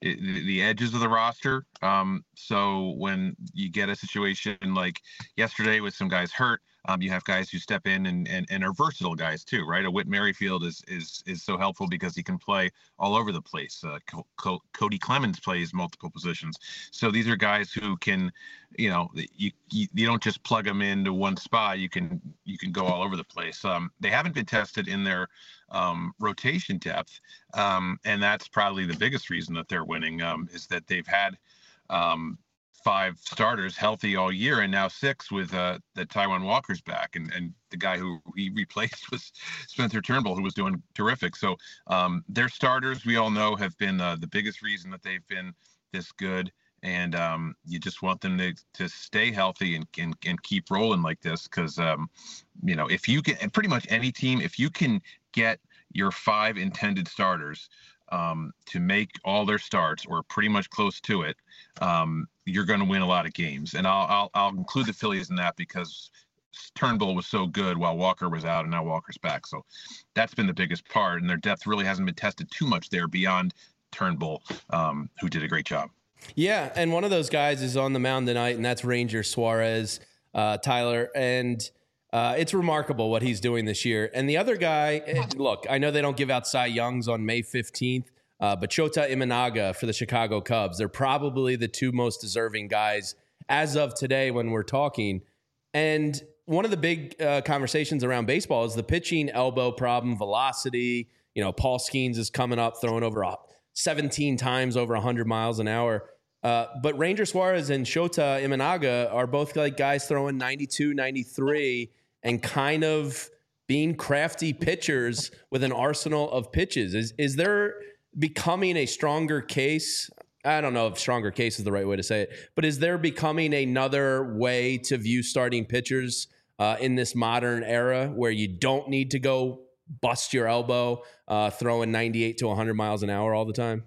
the edges of the roster. Um, so when you get a situation like yesterday with some guys hurt, um, you have guys who step in and, and, and are versatile guys too, right? A Whit Merrifield is is is so helpful because he can play all over the place. Uh, Co- Co- Cody Clemens plays multiple positions. So these are guys who can, you know, you, you you don't just plug them into one spot. You can you can go all over the place. Um, they haven't been tested in their um, rotation depth, um, and that's probably the biggest reason that they're winning. Um, is that they've had um, five starters healthy all year, and now six with uh, the Taijuan Walker's back, and and the guy who he replaced was Spencer Turnbull, who was doing terrific. So um, their starters, we all know, have been uh, the biggest reason that they've been this good. And um, you just want them to, to stay healthy and, and, and keep rolling like this. Because, um, you know, if you can, and pretty much any team, if you can get your five intended starters um, to make all their starts or pretty much close to it, um, you're going to win a lot of games. And I'll, I'll, I'll include the Phillies in that because Turnbull was so good while Walker was out, and now Walker's back. So that's been the biggest part. And their depth really hasn't been tested too much there beyond Turnbull, um, who did a great job. Yeah, and one of those guys is on the mound tonight, and that's Ranger Suarez, uh, Tyler. And uh, it's remarkable what he's doing this year. And the other guy, look, I know they don't give out Cy Youngs on May fifteenth, uh, but Shota Imanaga for the Chicago Cubs, they're probably the two most deserving guys as of today when we're talking. And one of the big uh, conversations around baseball is the pitching elbow problem, velocity. You know, Paul Skeens is coming up, throwing over a seventeen times over one hundred miles an hour. Uh, but Ranger Suarez and Shota Imanaga are both like guys throwing ninety-two, ninety-three and kind of being crafty pitchers with an arsenal of pitches. Is is there becoming a stronger case? I don't know if stronger case is the right way to say it, but is there becoming another way to view starting pitchers uh, in this modern era where you don't need to go bust your elbow uh, throwing ninety-eight to one hundred miles an hour all the time?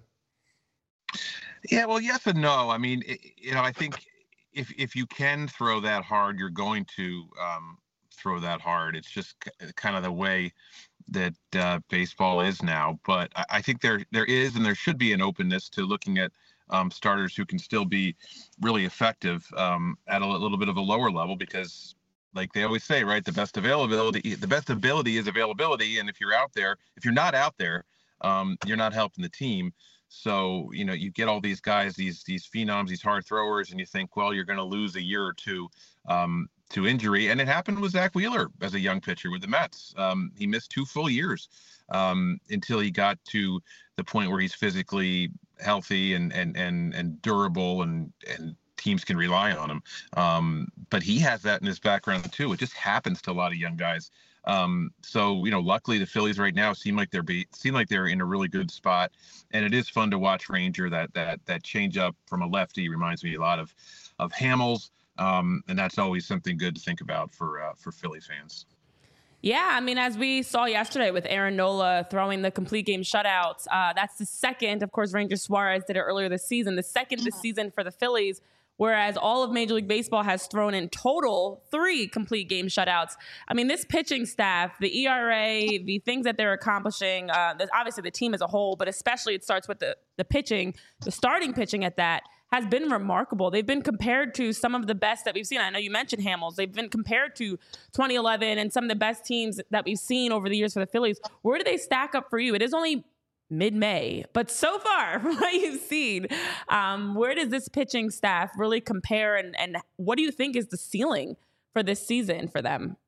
Yeah, well, yes and no. I mean, it, you know, I think if if you can throw that hard, you're going to um, throw that hard. It's just c- kind of the way that uh, baseball is now. But I, I think there there is and there should be an openness to looking at um, starters who can still be really effective um, at a little bit of a lower level, because like they always say, right, the best availability, the best ability is availability. And if you're out there, if you're not out there, um, you're not helping the team. So, you know, you get all these guys, these these phenoms, these hard throwers, and you think, well, you're going to lose a year or two. Um, to injury. And it happened with Zach Wheeler as a young pitcher with the Mets. Um, he missed two full years um, until he got to the point where he's physically healthy and and and and durable, and and teams can rely on him. Um, but he has that in his background too. It just happens to a lot of young guys. Um, so, you know, luckily the Phillies right now seem like they're be, seem like they're in a really good spot, and it is fun to watch Ranger. That that that change up from a lefty reminds me a lot of of Hamels, um, and that's always something good to think about for uh, for Philly fans. Yeah, I mean, as we saw yesterday with Aaron Nola throwing the complete game shutouts, uh, that's the second. Of course, Ranger Suarez did it earlier this season, the second this season for the Phillies. Whereas all of Major League Baseball has thrown in total three complete game shutouts. I mean, this pitching staff, the E R A, the things that they're accomplishing, uh, obviously the team as a whole, but especially it starts with the, the pitching, the starting pitching at that, has been remarkable. They've been compared to some of the best that we've seen. I know you mentioned Hamels. They've been compared to twenty eleven and some of the best teams that we've seen over the years for the Phillies. Where do they stack up for you? It is only mid-May, but so far from what you've seen, um, where does this pitching staff really compare, and, and what do you think is the ceiling for this season for them?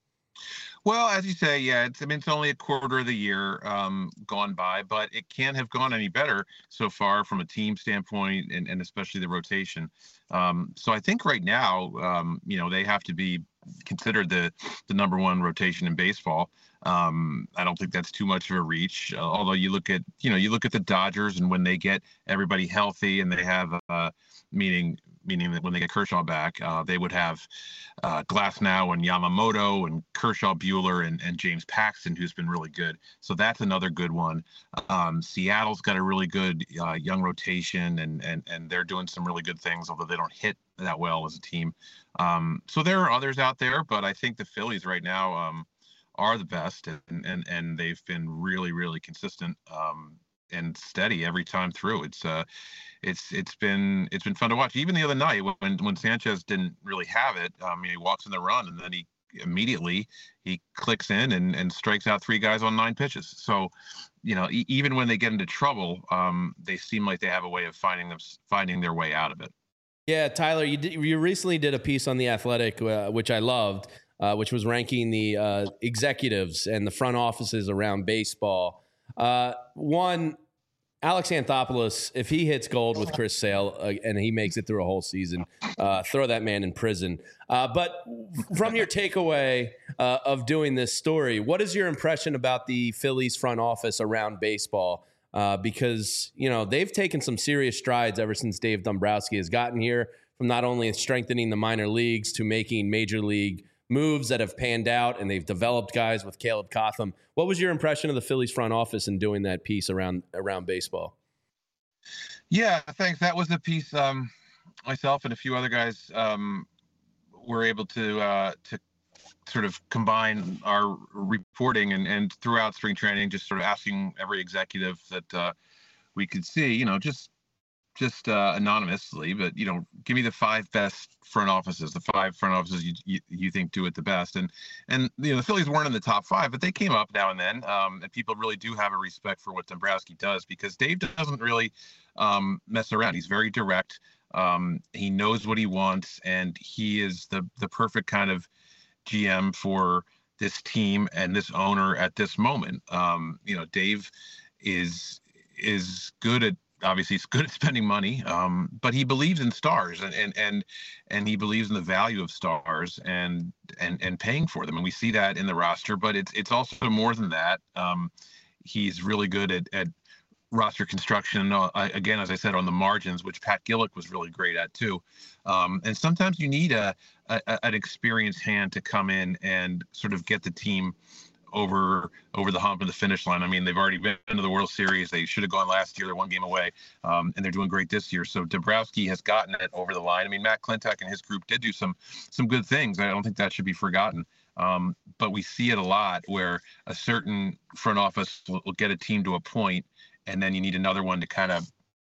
Well, as you say, yeah, it's, I mean, it's only a quarter of the year um, gone by, but it can't have gone any better so far from a team standpoint, and, and especially the rotation. Um, so I think right now, um, you know, they have to be considered the the number one rotation in baseball. Um, I don't think that's too much of a reach. Uh, although you look at, you know, you look at the Dodgers, and when they get everybody healthy and they have, uh, meaning meaning that when they get Kershaw back, uh, they would have uh, Glasnow and Yamamoto and Kershaw, Buehler, and, and James Paxton, who's been really good. So that's another good one. Um, Seattle's got a really good uh, young rotation, and and and they're doing some really good things, although they don't hit that well as a team. Um, so there are others out there, but I think the Phillies right now um, are the best, and, and and they've been really, really consistent um, and steady every time through. It's uh, it's it's been it's been fun to watch. Even the other night when when Sanchez didn't really have it, um, he walks in the run, and then he immediately he clicks in and, and strikes out three guys on nine pitches. So, you know, e- even when they get into trouble, um, they seem like they have a way of finding them finding their way out of it. Yeah, Tyler, you did, you recently did a piece on The Athletic, uh, which I loved, uh, which was ranking the uh, executives and the front offices around baseball. Uh, one, Alex Anthopoulos, if he hits gold with Chris Sale uh, and he makes it through a whole season, uh, throw that man in prison. Uh, but from your takeaway uh, of doing this story, what is your impression about the Phillies front office around baseball? Uh, because, you know, they've taken some serious strides ever since Dave Dombrowski has gotten here, from not only strengthening the minor leagues to making major league moves that have panned out, and they've developed guys with Caleb Cotham. What was your impression of the Phillies front office in doing that piece around around baseball? Yeah, thanks. That was a piece um, myself and a few other guys um, were able to uh, to sort of combine our reporting and, and throughout spring training, just sort of asking every executive that uh, we could see, you know, just just uh, anonymously, but, you know, give me the five best front offices, the five front offices you, you you think do it the best. And, and you know, the Phillies weren't in the top five, but they came up now and then. Um, and people really do have a respect for what Dombrowski does, because Dave doesn't really um, mess around. He's very direct. Um, he knows what he wants, and he is the the perfect kind of G M for this team and this owner at this moment. Um, you know, Dave is is good at obviously he's good at spending money, um, but he believes in stars, and and and and he believes in the value of stars and and and paying for them. And we see that in the roster, but it's it's also more than that. Um, he's really good at at roster construction, uh, again, as I said, on the margins, which Pat Gillick was really great at too. Um, and sometimes you need a, a an experienced hand to come in and sort of get the team over over the hump and the finish line. I mean, they've already been to the World Series. They should have gone last year. They're one game away, um, and they're doing great this year. So Dombrowski has gotten it over the line. I mean, Matt Klentak and his group did do some some good things. I don't think that should be forgotten. Um, but we see it a lot where a certain front office will, will get a team to a point, and then you need another one to kind of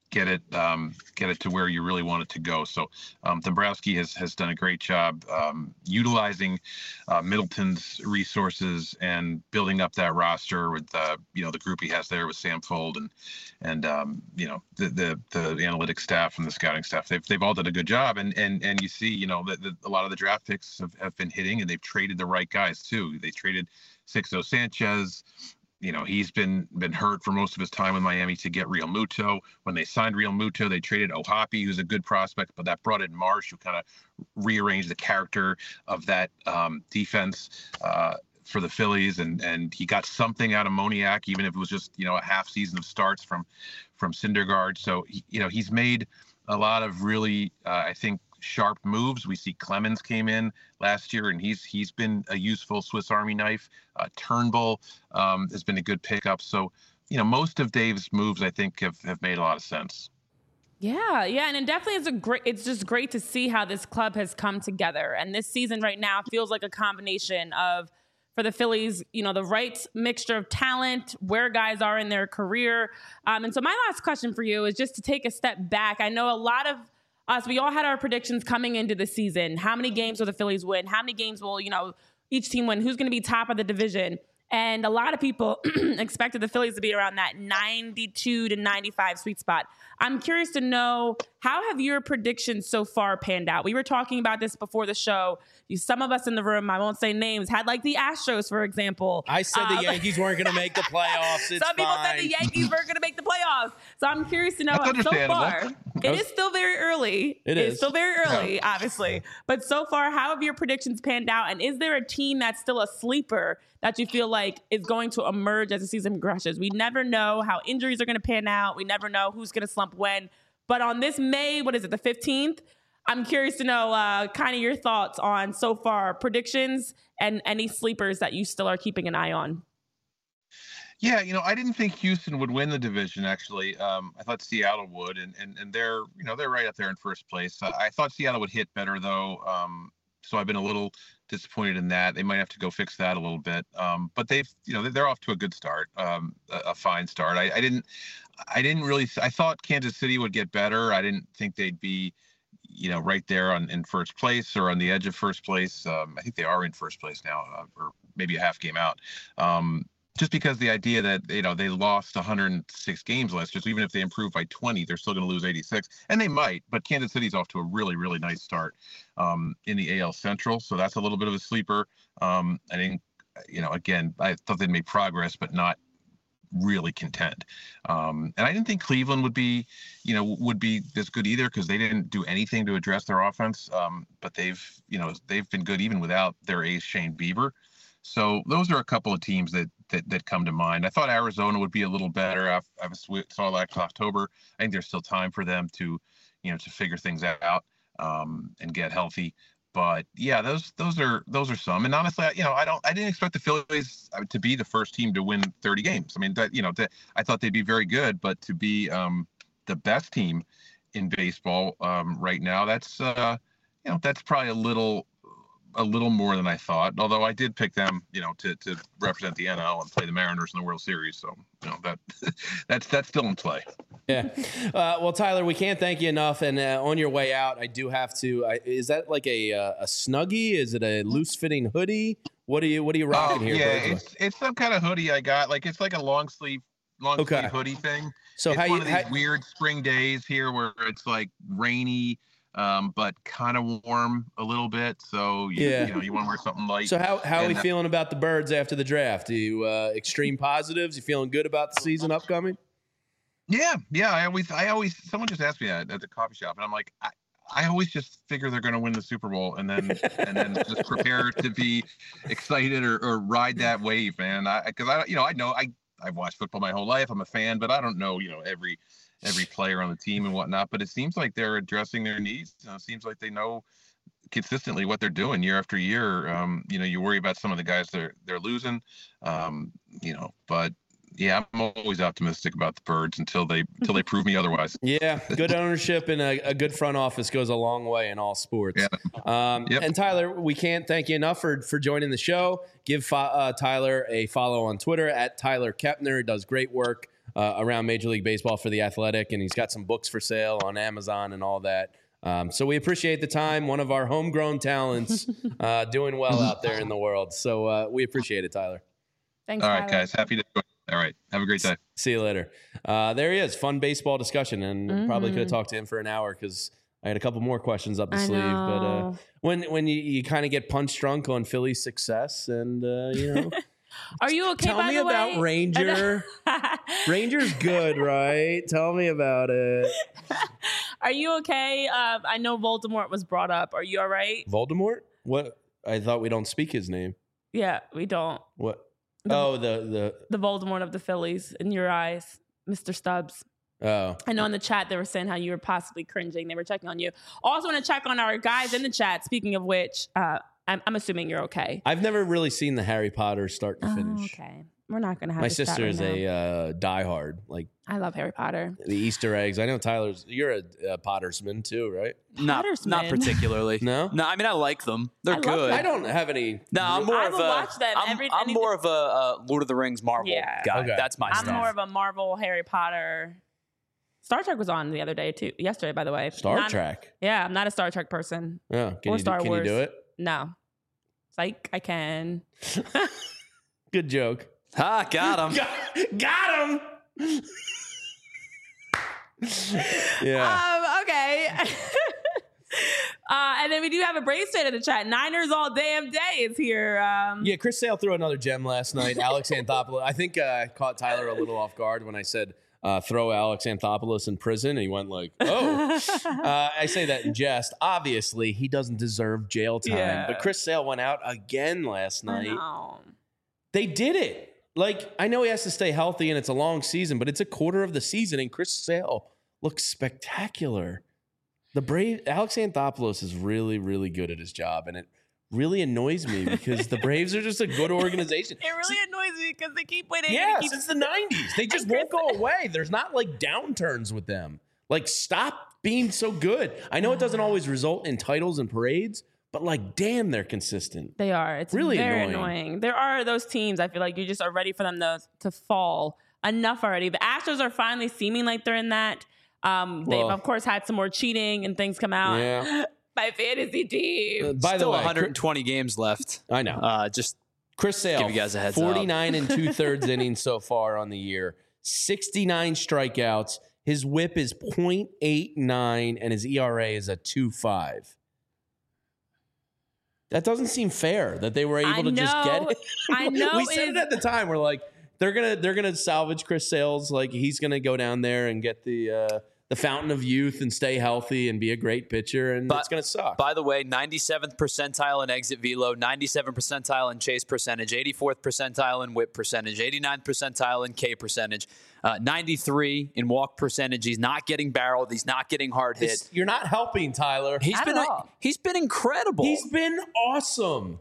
get it um, get it to where you really want it to go. So um, Dombrowski has has done a great job um, utilizing uh, Middleton's resources and building up that roster with uh, you know the group he has there with Sam Fold and and um, you know the, the the analytics staff and the scouting staff. They've they've all done a good job, and and and you see you know that a lot of the draft picks have, have been hitting, and they've traded the right guys too. They traded Sixto Sanchez. You know, he's been been hurt for most of his time with Miami to get Real Muto. When they signed Real Muto, they traded Ohapi, who's a good prospect, but that brought in Marsh, who kind of rearranged the character of that um, defense uh, for the Phillies. And and he got something out of Moniak, even if it was just, you know, a half season of starts from from Syndergaard. So, he, you know, he's made a lot of really, uh, I think, sharp moves. We see Clemens came in last year, and he's he's been a useful Swiss Army knife. Uh, Turnbull um, has been a good pickup. So, you know, most of Dave's moves, I think, have, have made a lot of sense. Yeah, yeah, and it definitely is a great. It's just great to see how this club has come together, and this season right now feels like a combination of, for the Phillies, you know, the right mixture of talent, where guys are in their career. Um, and so my last question for you is just to take a step back. I know a lot of us, we all had our predictions coming into the season. How many games will the Phillies win? How many games will, you know, each team win? Who's going to be top of the division? And a lot of people expected the Phillies to be around that ninety-two to ninety-five sweet spot. I'm curious to know, how have your predictions so far panned out? We were talking about this before the show. You, some of us in the room, I won't say names, had like the Astros, for example. I said uh, the Yankees weren't going to make the playoffs. It's some people fine. said the Yankees weren't going to make the playoffs. So I'm curious to know, That's so far, understandable. it is still very early. It It's is. still very early, Yeah. obviously. But so far, how have your predictions panned out? And is there a team that's still a sleeper that you feel like is going to emerge as the season progresses? We never know how injuries are going to pan out. We never know who's going to slump when. But on this May, what is it, the fifteenth? I'm curious to know uh, kind of your thoughts on so far predictions and any sleepers that you still are keeping an eye on. Yeah, you know, I didn't think Houston would win the division. Actually, um, I thought Seattle would, and and and they're you know they're right up there in first place. I, I thought Seattle would hit better though, um, so I've been a little disappointed in that. They might have to go fix that a little bit. Um, but they've you know they're off to a good start, um, a, a fine start. I, I didn't I didn't really I thought Kansas City would get better. I didn't think they'd be you know right there on in first place or on the edge of first place. Um, I think they are in first place now, uh, or maybe a half game out. Um, Just because the idea that, you know, they lost one hundred six games last year, so even if they improve by twenty, they're still going to lose eighty-six. And they might, but Kansas City's off to a really, really nice start um, in the A L Central. So that's a little bit of a sleeper. Um, I think, you know, again, I thought they'd make progress, but not really contend. Um, and I didn't think Cleveland would be, you know, would be this good either because they didn't do anything to address their offense. Um, but they've, you know, they've been good even without their ace, Shane Bieber. So those are a couple of teams that that that come to mind. I thought Arizona would be a little better. I, I saw last October. I think there's still time for them to, you know, to figure things out um, and get healthy. But yeah, those those are those are some. And honestly, you know, I don't I didn't expect the Phillies to be the first team to win thirty games. I mean, that you know, that, I thought they'd be very good, but to be um, the best team in baseball um, right now, that's uh, you know, that's probably a little. a little more than I thought, although I did pick them, you know, to, to represent the N L and play the Mariners in the World Series. So, you know, that that's, that's still in play. Yeah. Uh, well, Tyler, we can't thank you enough. And uh, on your way out, I do have to, I, is that like a, uh, a Snuggie? Is it a loose fitting hoodie? What are you, what are you rocking Oh, here? yeah, Berkeley? it's, it's some kind of hoodie I got. Like, it's like a long sleeve, long Okay. sleeve hoodie thing. So it's how one you, of these how, weird spring days here where it's like rainy, um, but kind of warm a little bit. So, you, Yeah. you know, you want to wear something light. so how, how are we and, uh, feeling about the Birds after the draft? Do you, uh, extreme positives? You feeling good about the season upcoming? Yeah, yeah. I always, I always, someone just asked me that at the coffee shop, and I'm like, I, I always just figure they're going to win the Super Bowl, and then, and then just prepare to be excited or, or ride that wave, man. I, because I, you know, I know I, I've watched football my whole life. I'm a fan, but I don't know, you know, every, every player on the team and whatnot. But it seems like they're addressing their needs. You know, it seems like they know consistently what they're doing year after year. Um, you know, you worry about some of the guys they're they're losing, um, you know, but. Yeah, I'm always optimistic about the Birds until they until they prove me otherwise. Yeah, good ownership and a, a good front office goes a long way in all sports. Yeah. Um, Yep. And Tyler, we can't thank you enough for for joining the show. Give uh, Tyler a follow on Twitter at Tyler Kepner. He does great work uh, around Major League Baseball for The Athletic, and he's got some books for sale on Amazon and all that. Um, so we appreciate the time. One of our homegrown talents uh, doing well out there in the world. So uh, we appreciate it, Tyler. Thanks, All right, Tyler. guys. Happy to join. All right. Have a great day. See you later. Uh, there he is. Fun baseball discussion. And Mm-hmm. probably could have talked to him for an hour because I had a couple more questions up the I sleeve. But uh, know. when when you, you kind of get punch drunk on Philly's success and, uh, you know. Are you okay, Tell by me the about way? Ranger. Ranger's good, right? Tell me about it. Are you okay? Uh, I know Voldemort was brought up. Are you all right? Voldemort? What? I thought we don't speak his name. Yeah, we don't. What? Oh, the The Voldemort of the Phillies in your eyes, Mister Stubbs. the. Oh. I know in the chat they were saying how you were possibly cringing. They were checking on you. Also want to check on our guys in the chat. Speaking of which, uh, I'm, I'm assuming you're okay. I've never really seen the Harry Potter start to Oh, finish. okay. We're not going to have My this chat sister right is now. a uh, diehard. Like I love Harry Potter. the Easter eggs. I know Tyler's. You're a, a Pottersman too, right? Not, not Pottersman. particularly. No? No, I mean, I like them. They're I love good. them. I don't have any. No, I'm more I of will a. watch them I'm, every- I'm anything- more of a uh, Lord of the Rings Marvel Yeah. guy. Okay. That's my I'm stuff. more of a Marvel, Harry Potter. Star Trek was on the other day too. Yesterday, by the way. Star Not- Trek. Yeah, I'm not a Star Trek person. Yeah. Can, Or you, do- Star can Wars. you do it? No. Psych, I can. Good joke. Ha, got him. Got, got him. yeah. Um, okay. uh, and then we do have a Braves fan in the chat. Niners all damn day is here. Um, Yeah, Chris Sale threw another gem last night. Alex Anthopoulos. I think uh, I caught Tyler a little off guard when I said uh, throw Alex Anthopoulos in prison. And he went like, oh. uh, I say that in jest. Obviously, he doesn't deserve jail time. Yeah. But Chris Sale went out again last I night. know. They did it. Like, I know he has to stay healthy and it's a long season, but it's a quarter of the season and Chris Sale looks spectacular. The Brave Alex Anthopoulos is really, really good at his job, and it really annoys me because the Braves are just a good organization. It really annoys me because they keep winning. Yeah, and it keeps- since the nineties. They just And won't Chris- go away. There's not like downturns with them. Like, stop being so good. I know it doesn't always result in titles and parades, but like, damn, they're consistent. They are. It's Really very annoying. annoying. There are those teams I feel like you just are ready for them to to fall. Enough already. The Astros are finally seeming like they're in that. Um, they've Well- of course had some more cheating and things come out. Yeah. My fantasy team. Uh, by the Still way, one hundred twenty games left. I know. Uh, just Chris Sale, Give you guys a heads up. forty-nine and two thirds innings so far on the year, sixty-nine strikeouts. His whip is point eight nine and his E R A is a two point five. That doesn't seem fair that they were able I to just get know. it. I know We said it is- at the time. We're like, they're gonna they're gonna salvage Chris Sales. Like, he's gonna go down there and get the uh, the fountain of youth and stay healthy and be a great pitcher, and But- it's gonna suck. By the way, ninety-seventh percentile in exit velo, ninety-seventh percentile in chase percentage, eighty-fourth percentile in whip percentage, eighty-ninth percentile in K percentage, uh, ninety-three in walk percentage. He's not getting barreled. He's not getting hard hit. It's- you're not helping, Tyler. He's Not been at all. he's been incredible. He's been awesome.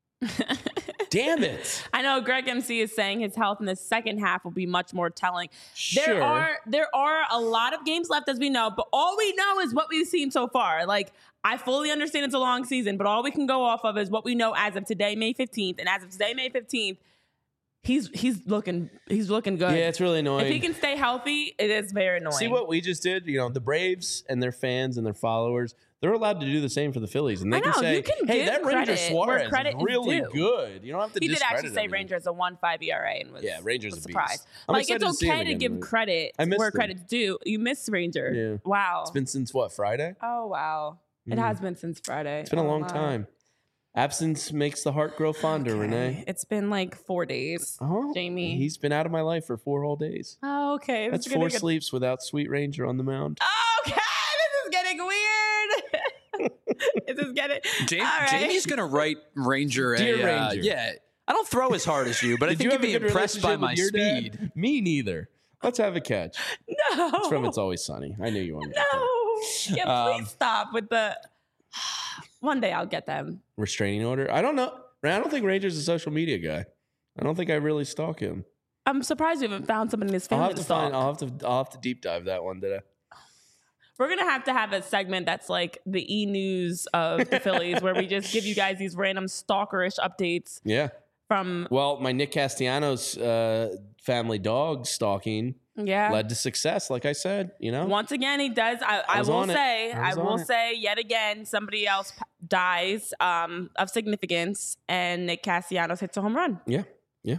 Damn it. I know Greg M C is saying his health in the second half will be much more telling. There Sure. are there are a lot of games left, as we know, but all we know is what we've seen so far. Like, I fully understand it's a long season, but all we can go off of is what we know as of today, May fifteenth. And as of today, May fifteenth, he's he's looking he's looking good. Yeah, it's really annoying. If he can stay healthy, it is very annoying. See what we just did? You know, the Braves and their fans and their followers, they're allowed to do the same for the Phillies. And they I can know, say, you can hey, give that Ranger credit where Suarez credit is is really due. good. You don't have to He did discredit actually say everything. Rangers a one five E R A and was Yeah, Rangers was a beast. surprised. I'm Like, excited it's to see him okay to again, give but credit I missed where him. credit's due. You missed Ranger. Yeah. Wow. It's been since what, Friday? Oh wow. It Mm. has been since Friday. It's been a Oh, long wow. time. Absence makes the heart grow fonder, Okay. Renee. It's been like four days. Oh, Jamie. He's been out of my life for four whole days. Oh, okay. This That's is getting four good- sleeps without Sweet Ranger on the mound. Okay, this is getting weird. this is getting. Jamie, All right. Jamie's gonna write Ranger. Dear a, uh, Ranger. yeah, I don't throw as hard as you, but I Did think you you'd have a be good impressed by relationship my with your dad? speed. Me neither. Let's have a catch. No. It's from It's Always Sunny. I knew you wanted to. No. Yeah, please Um, stop with the. One day I'll get them. Restraining order? I don't know. I don't think Ranger's a social media guy. I don't think I really stalk him. I'm surprised we haven't found somebody in his I'll family have to to stalk. find. I'll have to. I'll have to deep dive that one today. We're gonna have to have a segment that's like the e news of the Phillies, where we just give you guys these random stalkerish updates Yeah. from. Well, my Nick Castellanos uh, family dog stalking Yeah. led to success. Like I said, you know, Once again, he does. I, I, was will on it. say, I I, was will on it. say yet again, somebody else p- dies um, of significance, and Nick Castellanos hits a home run. Yeah. Yeah.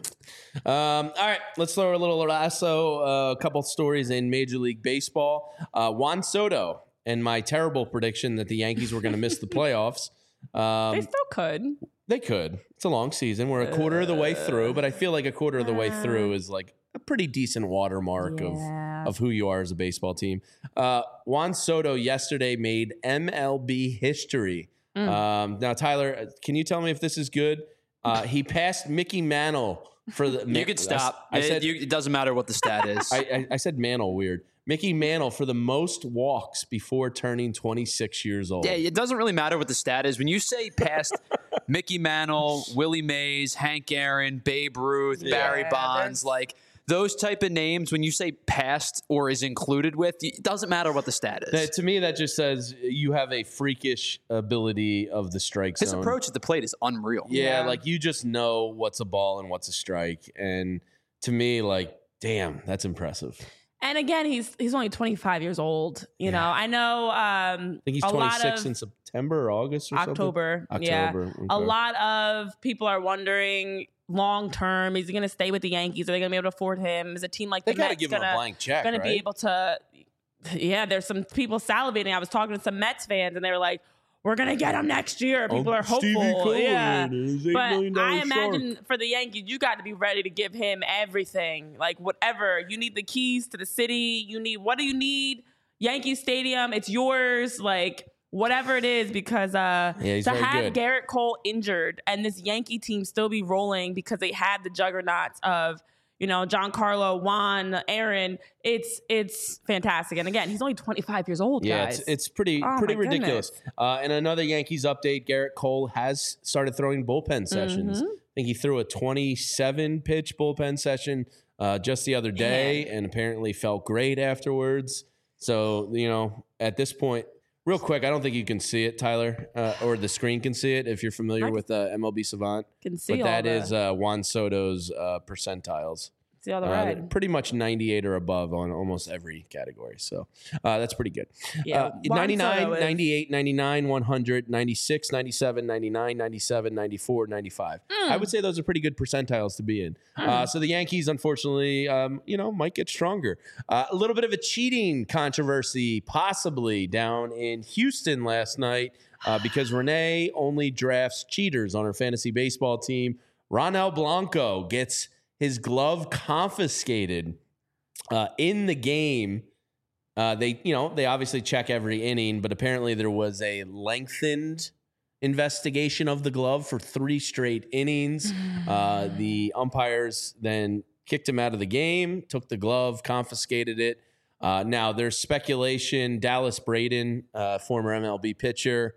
Um, all right. Let's throw a little lasso. Uh, a couple stories in Major League Baseball. Uh, Juan Soto and my terrible prediction that the Yankees were going to miss the playoffs. Um, They still could. they could. It's a long season. We're a quarter of the way through, but I feel like a quarter of the way through is like a pretty decent watermark Yeah. of, of who you are as a baseball team. Uh, Juan Soto yesterday made M L B history. Mm. Um, now, Tyler, can you tell me if this is good? Uh, he passed Mickey Mantle for the. You could stop. I, I said. it, you, it doesn't matter what the stat is. I, I, I said Mantle. Weird. Mickey Mantle for the most walks before turning twenty-six years old. Yeah, it doesn't really matter what the stat is. When you say past Mickey Mantle, Willie Mays, Hank Aaron, Babe Ruth, Barry Yeah, Bonds, there's- like those type of names, when you say past or is included with, it doesn't matter what the stat is. That, to me, that just says you have a freakish ability of the strike His zone. approach at the plate is unreal. Yeah, Yeah. like you just know what's a ball and what's a strike. And to me, like, damn, that's impressive. And again, he's he's only twenty-five years old. You Yeah. know, I know. Um, I think he's a lot twenty-six of in September or August or October. something. Yeah, October. a okay. lot of people are wondering long term, is he going to stay with the Yankees? Are they going to be able to afford him? Is a team like They the got to Mets give him gonna, a blank check, gonna right? be able to? Yeah, there's some people salivating. I was talking to some Mets fans, and they were like, "We're going to get him next year." People Oh, are hopeful. Stevie Cohen Yeah. and his eight But million dollar I shark. imagine for the Yankees, you got to be ready to give him everything. Like whatever. You need the keys to the city. You need, what do you need? Yankee Stadium. It's yours. Like whatever it is, because uh, Yeah, he's to very have good. Garrett Cole injured and this Yankee team still be rolling because they had the juggernauts of, you know, Giancarlo, Juan, Aaron. It's it's fantastic. And again, he's only twenty-five years old, Yeah, guys. it's, it's pretty Oh, pretty my ridiculous. goodness. Uh, and another Yankees update: Garrett Cole has started throwing bullpen sessions. Mhm. I think he threw a twenty-seven pitch bullpen session uh, just the other day, and apparently felt great afterwards. So you know, at this point, real quick, I don't think you can see it, Tyler, uh, or the screen can see it if you're familiar I with uh, M L B Savant. can see But all that the, is uh, Juan Soto's uh, percentiles. see all the Uh, red. pretty much ninety-eight or above on almost every category. So uh, that's pretty good. Yeah, Uh, Juan ninety-nine, Soto is- ninety-eight, ninety-nine, one hundred, ninety-six, ninety-seven, ninety-nine, ninety-seven, ninety-four, ninety-five. I would say those are pretty good percentiles to be in. Uh, so the Yankees, unfortunately, um, you know, might get stronger. Uh, a little bit of a cheating controversy possibly down in Houston last night uh, because Renee only drafts cheaters on her fantasy baseball team. Ronel Blanco gets his glove confiscated uh, in the game. Uh, they, you know, they obviously check every inning, but apparently there was a lengthened investigation of the glove for three straight innings. Uh, the umpires then kicked him out of the game, took the glove, confiscated it. Uh, now there's speculation. Dallas Braden, uh, former M L B pitcher,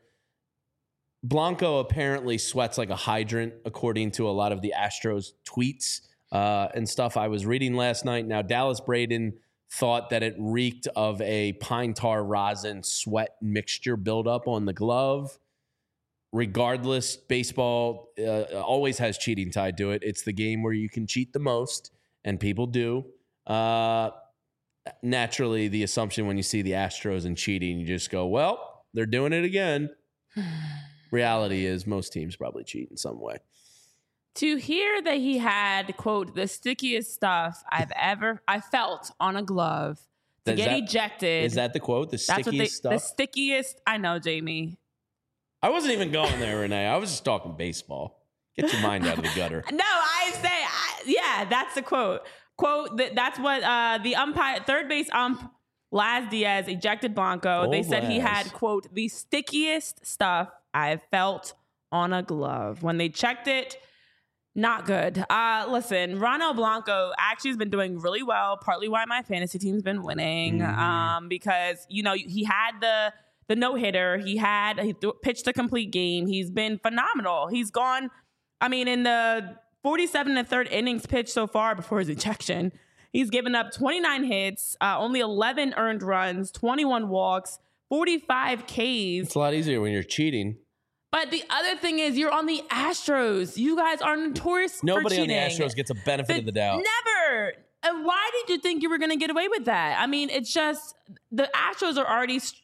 Blanco apparently sweats like a hydrant, according to a lot of the Astros tweets uh, and stuff I was reading last night. Now, Dallas Braden thought that it reeked of a pine tar rosin sweat mixture buildup on the glove. Regardless, baseball uh, always has cheating tied to it. It's the game where you can cheat the most, and people do. Uh, naturally, the assumption when you see the Astros and cheating, you just go, well, they're doing it again. Reality is most teams probably cheat in some way. To hear that he had, quote, the stickiest stuff I've ever I felt on a glove to Is get that- ejected. Is that the quote? The that's what they, stickiest the stuff? stickiest. I know, Jamie. I wasn't even going there, Renee. I was just talking baseball. Get your mind out of the gutter. No, I say, I, yeah, that's the quote. Quote, that, that's what uh, the umpire, third base ump, Laz Diaz, ejected Blanco. They Old said he Laz. had, quote, the stickiest stuff I've felt on a glove. When they checked it, not good. Uh, listen, Ronel Blanco actually has been doing really well, partly why my fantasy team's been winning. Mhm. Um, because, you know, he had the the no-hitter. He had, he th- pitched a complete game. He's been phenomenal. He's gone, I mean, in the forty-seven and third innings pitched so far before his ejection, he's given up twenty-nine hits, uh, only eleven earned runs, twenty-one walks, forty-five Ks. It's a lot easier when you're cheating. But the other thing is, you're on the Astros. You guys are notorious Nobody for on cheating. the Astros gets a benefit The- of the doubt. Never. And why did you think you were going to get away with that? I mean, it's just the Astros are already st-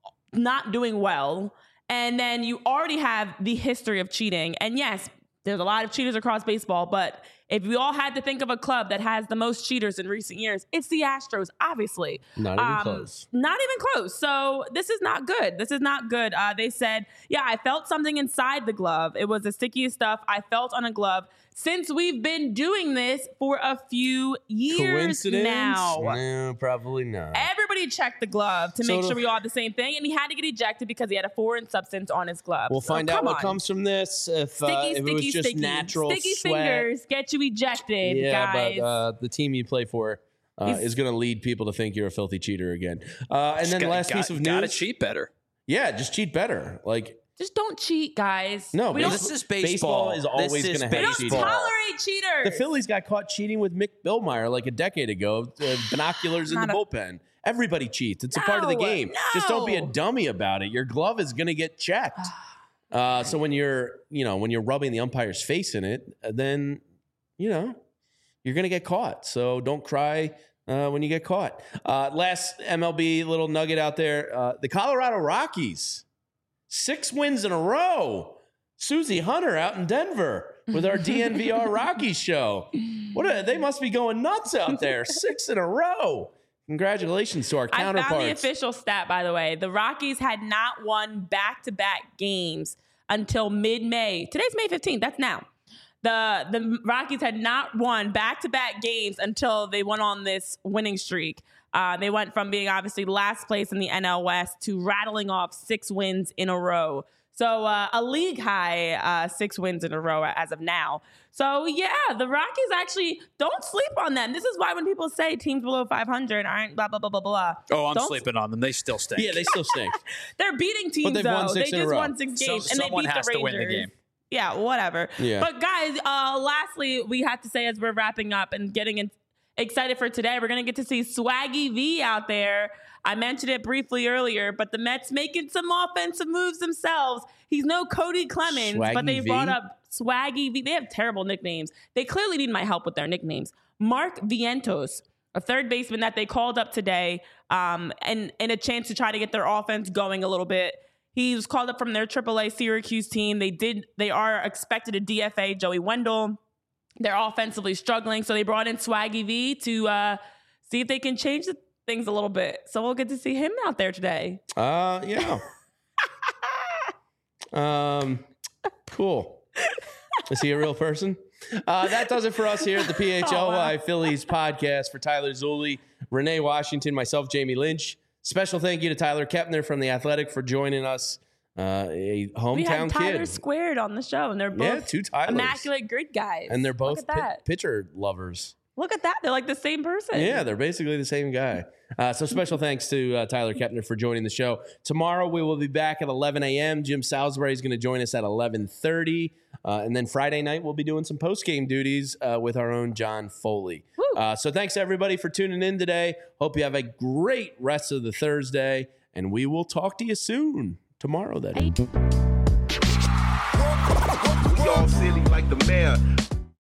not doing well. And then you already have the history of cheating. And yes, there's a lot of cheaters across baseball, but if we all had to think of a club that has the most cheaters in recent years, it's the Astros, obviously. Not even Um, close. Not even close. So this is not good. This is not good. Uh, they said, yeah, I felt something inside the glove. It was the stickiest stuff I felt on a glove since we've been doing this for a few years Coincidence? now. No, probably not. Everybody checked the glove to So make the- sure we all had the same thing, and he had to get ejected because he had a foreign substance on his glove. We'll So, find out come what on. comes from this. If, uh, Sticky, if sticky, it was just sticky. natural Sticky sweat. fingers get you ejected, Yeah, guys. but uh, the team you play for uh, He's- is going to lead people to think you're a filthy cheater again. Uh, and then the Got- last got- piece of gotta news. cheat better. Yeah, just cheat better. Like, Just don't cheat, guys. No, we but don't, This is Baseball baseball. is always This is gonna have we don't cheating. baseball. tolerate cheaters. the Phillies got caught cheating with Mick Billmeyer like a decade ago. Uh, binoculars in the Not a- bullpen. Everybody cheats. It's a part of the No, game. Just don't be a no. dummy about it. Your glove is going to get checked. Uh, so when you're, you know, when you're rubbing the umpire's face in it, uh, then, you know, you're going to get caught. So don't cry uh, when you get caught. Uh, last M L B little nugget out there. Uh, the Colorado Rockies, six wins in a row. Susie Hunter out in Denver with our D N V R Rockies show. What a, they must be going nuts out there. Six in a row. Congratulations to our I counterparts. found the official stat, by the way. The Rockies had not won back-to-back games until mid-May. Today's May fifteenth. That's now. The the Rockies had not won back-to-back games until they went on this winning streak. Uh, they went from being obviously last place in the N L West to rattling off six wins in a row. So uh, a league high uh, six wins in a row as of now. So yeah, the Rockies actually don't sleep on them. This is why when people say teams below five hundred aren't blah blah blah blah blah. Oh, I'm Don't- sleeping on them. They still stink. Yeah, they still stink. They're beating teams they've though. won six they in a just row. won six So- games and they someone beat has the to Rangers. win the game. Yeah, whatever. Yeah. But guys, uh, lastly, we have to say as we're wrapping up and getting in, excited for today, we're gonna get to see Swaggy V out there. I mentioned it briefly earlier, but the Mets making some offensive moves themselves. He's no Cody Clemens, Swaggy but they V? brought up Swaggy V. They have terrible nicknames. They clearly need my help with their nicknames. Mark Vientos, a third baseman that they called up today, um, and, and a chance to try to get their offense going a little bit. He was called up from their triple A Syracuse team. They did. They are expected to D F A Joey Wendell. They're offensively struggling, so they brought in Swaggy V to uh, see if they can change the things a little bit. So we'll get to see him out there today. Uh, yeah. um, cool. Is he a real person? Uh, that does it for us here at the P H L Y Oh, wow. Phillies podcast. For Tyler Zulli, Renee Washington, myself, Jamie Lynch. Special thank you to Tyler Kepner from The Athletic for joining us. Uh, a We hometown had Tyler kid. Squared on the show, and they're both Yeah, two Tylers. immaculate grid guys. And they're both Look at pi- that. pitcher lovers. Look at that. They're like the same person. Yeah, they're basically the same guy. Uh, so special thanks to uh, Tyler Kepner for joining the show. Tomorrow we will be back at eleven a.m. Jim Salisbury is going to join us at eleven thirty. Uh, and then Friday night we'll be doing some post-game duties uh, with our own John Foley. Woo. Uh, so thanks everybody for tuning in today. Hope you have a great rest of the Thursday. And we will talk to you soon. Tomorrow, that is. We all silly like the mayor.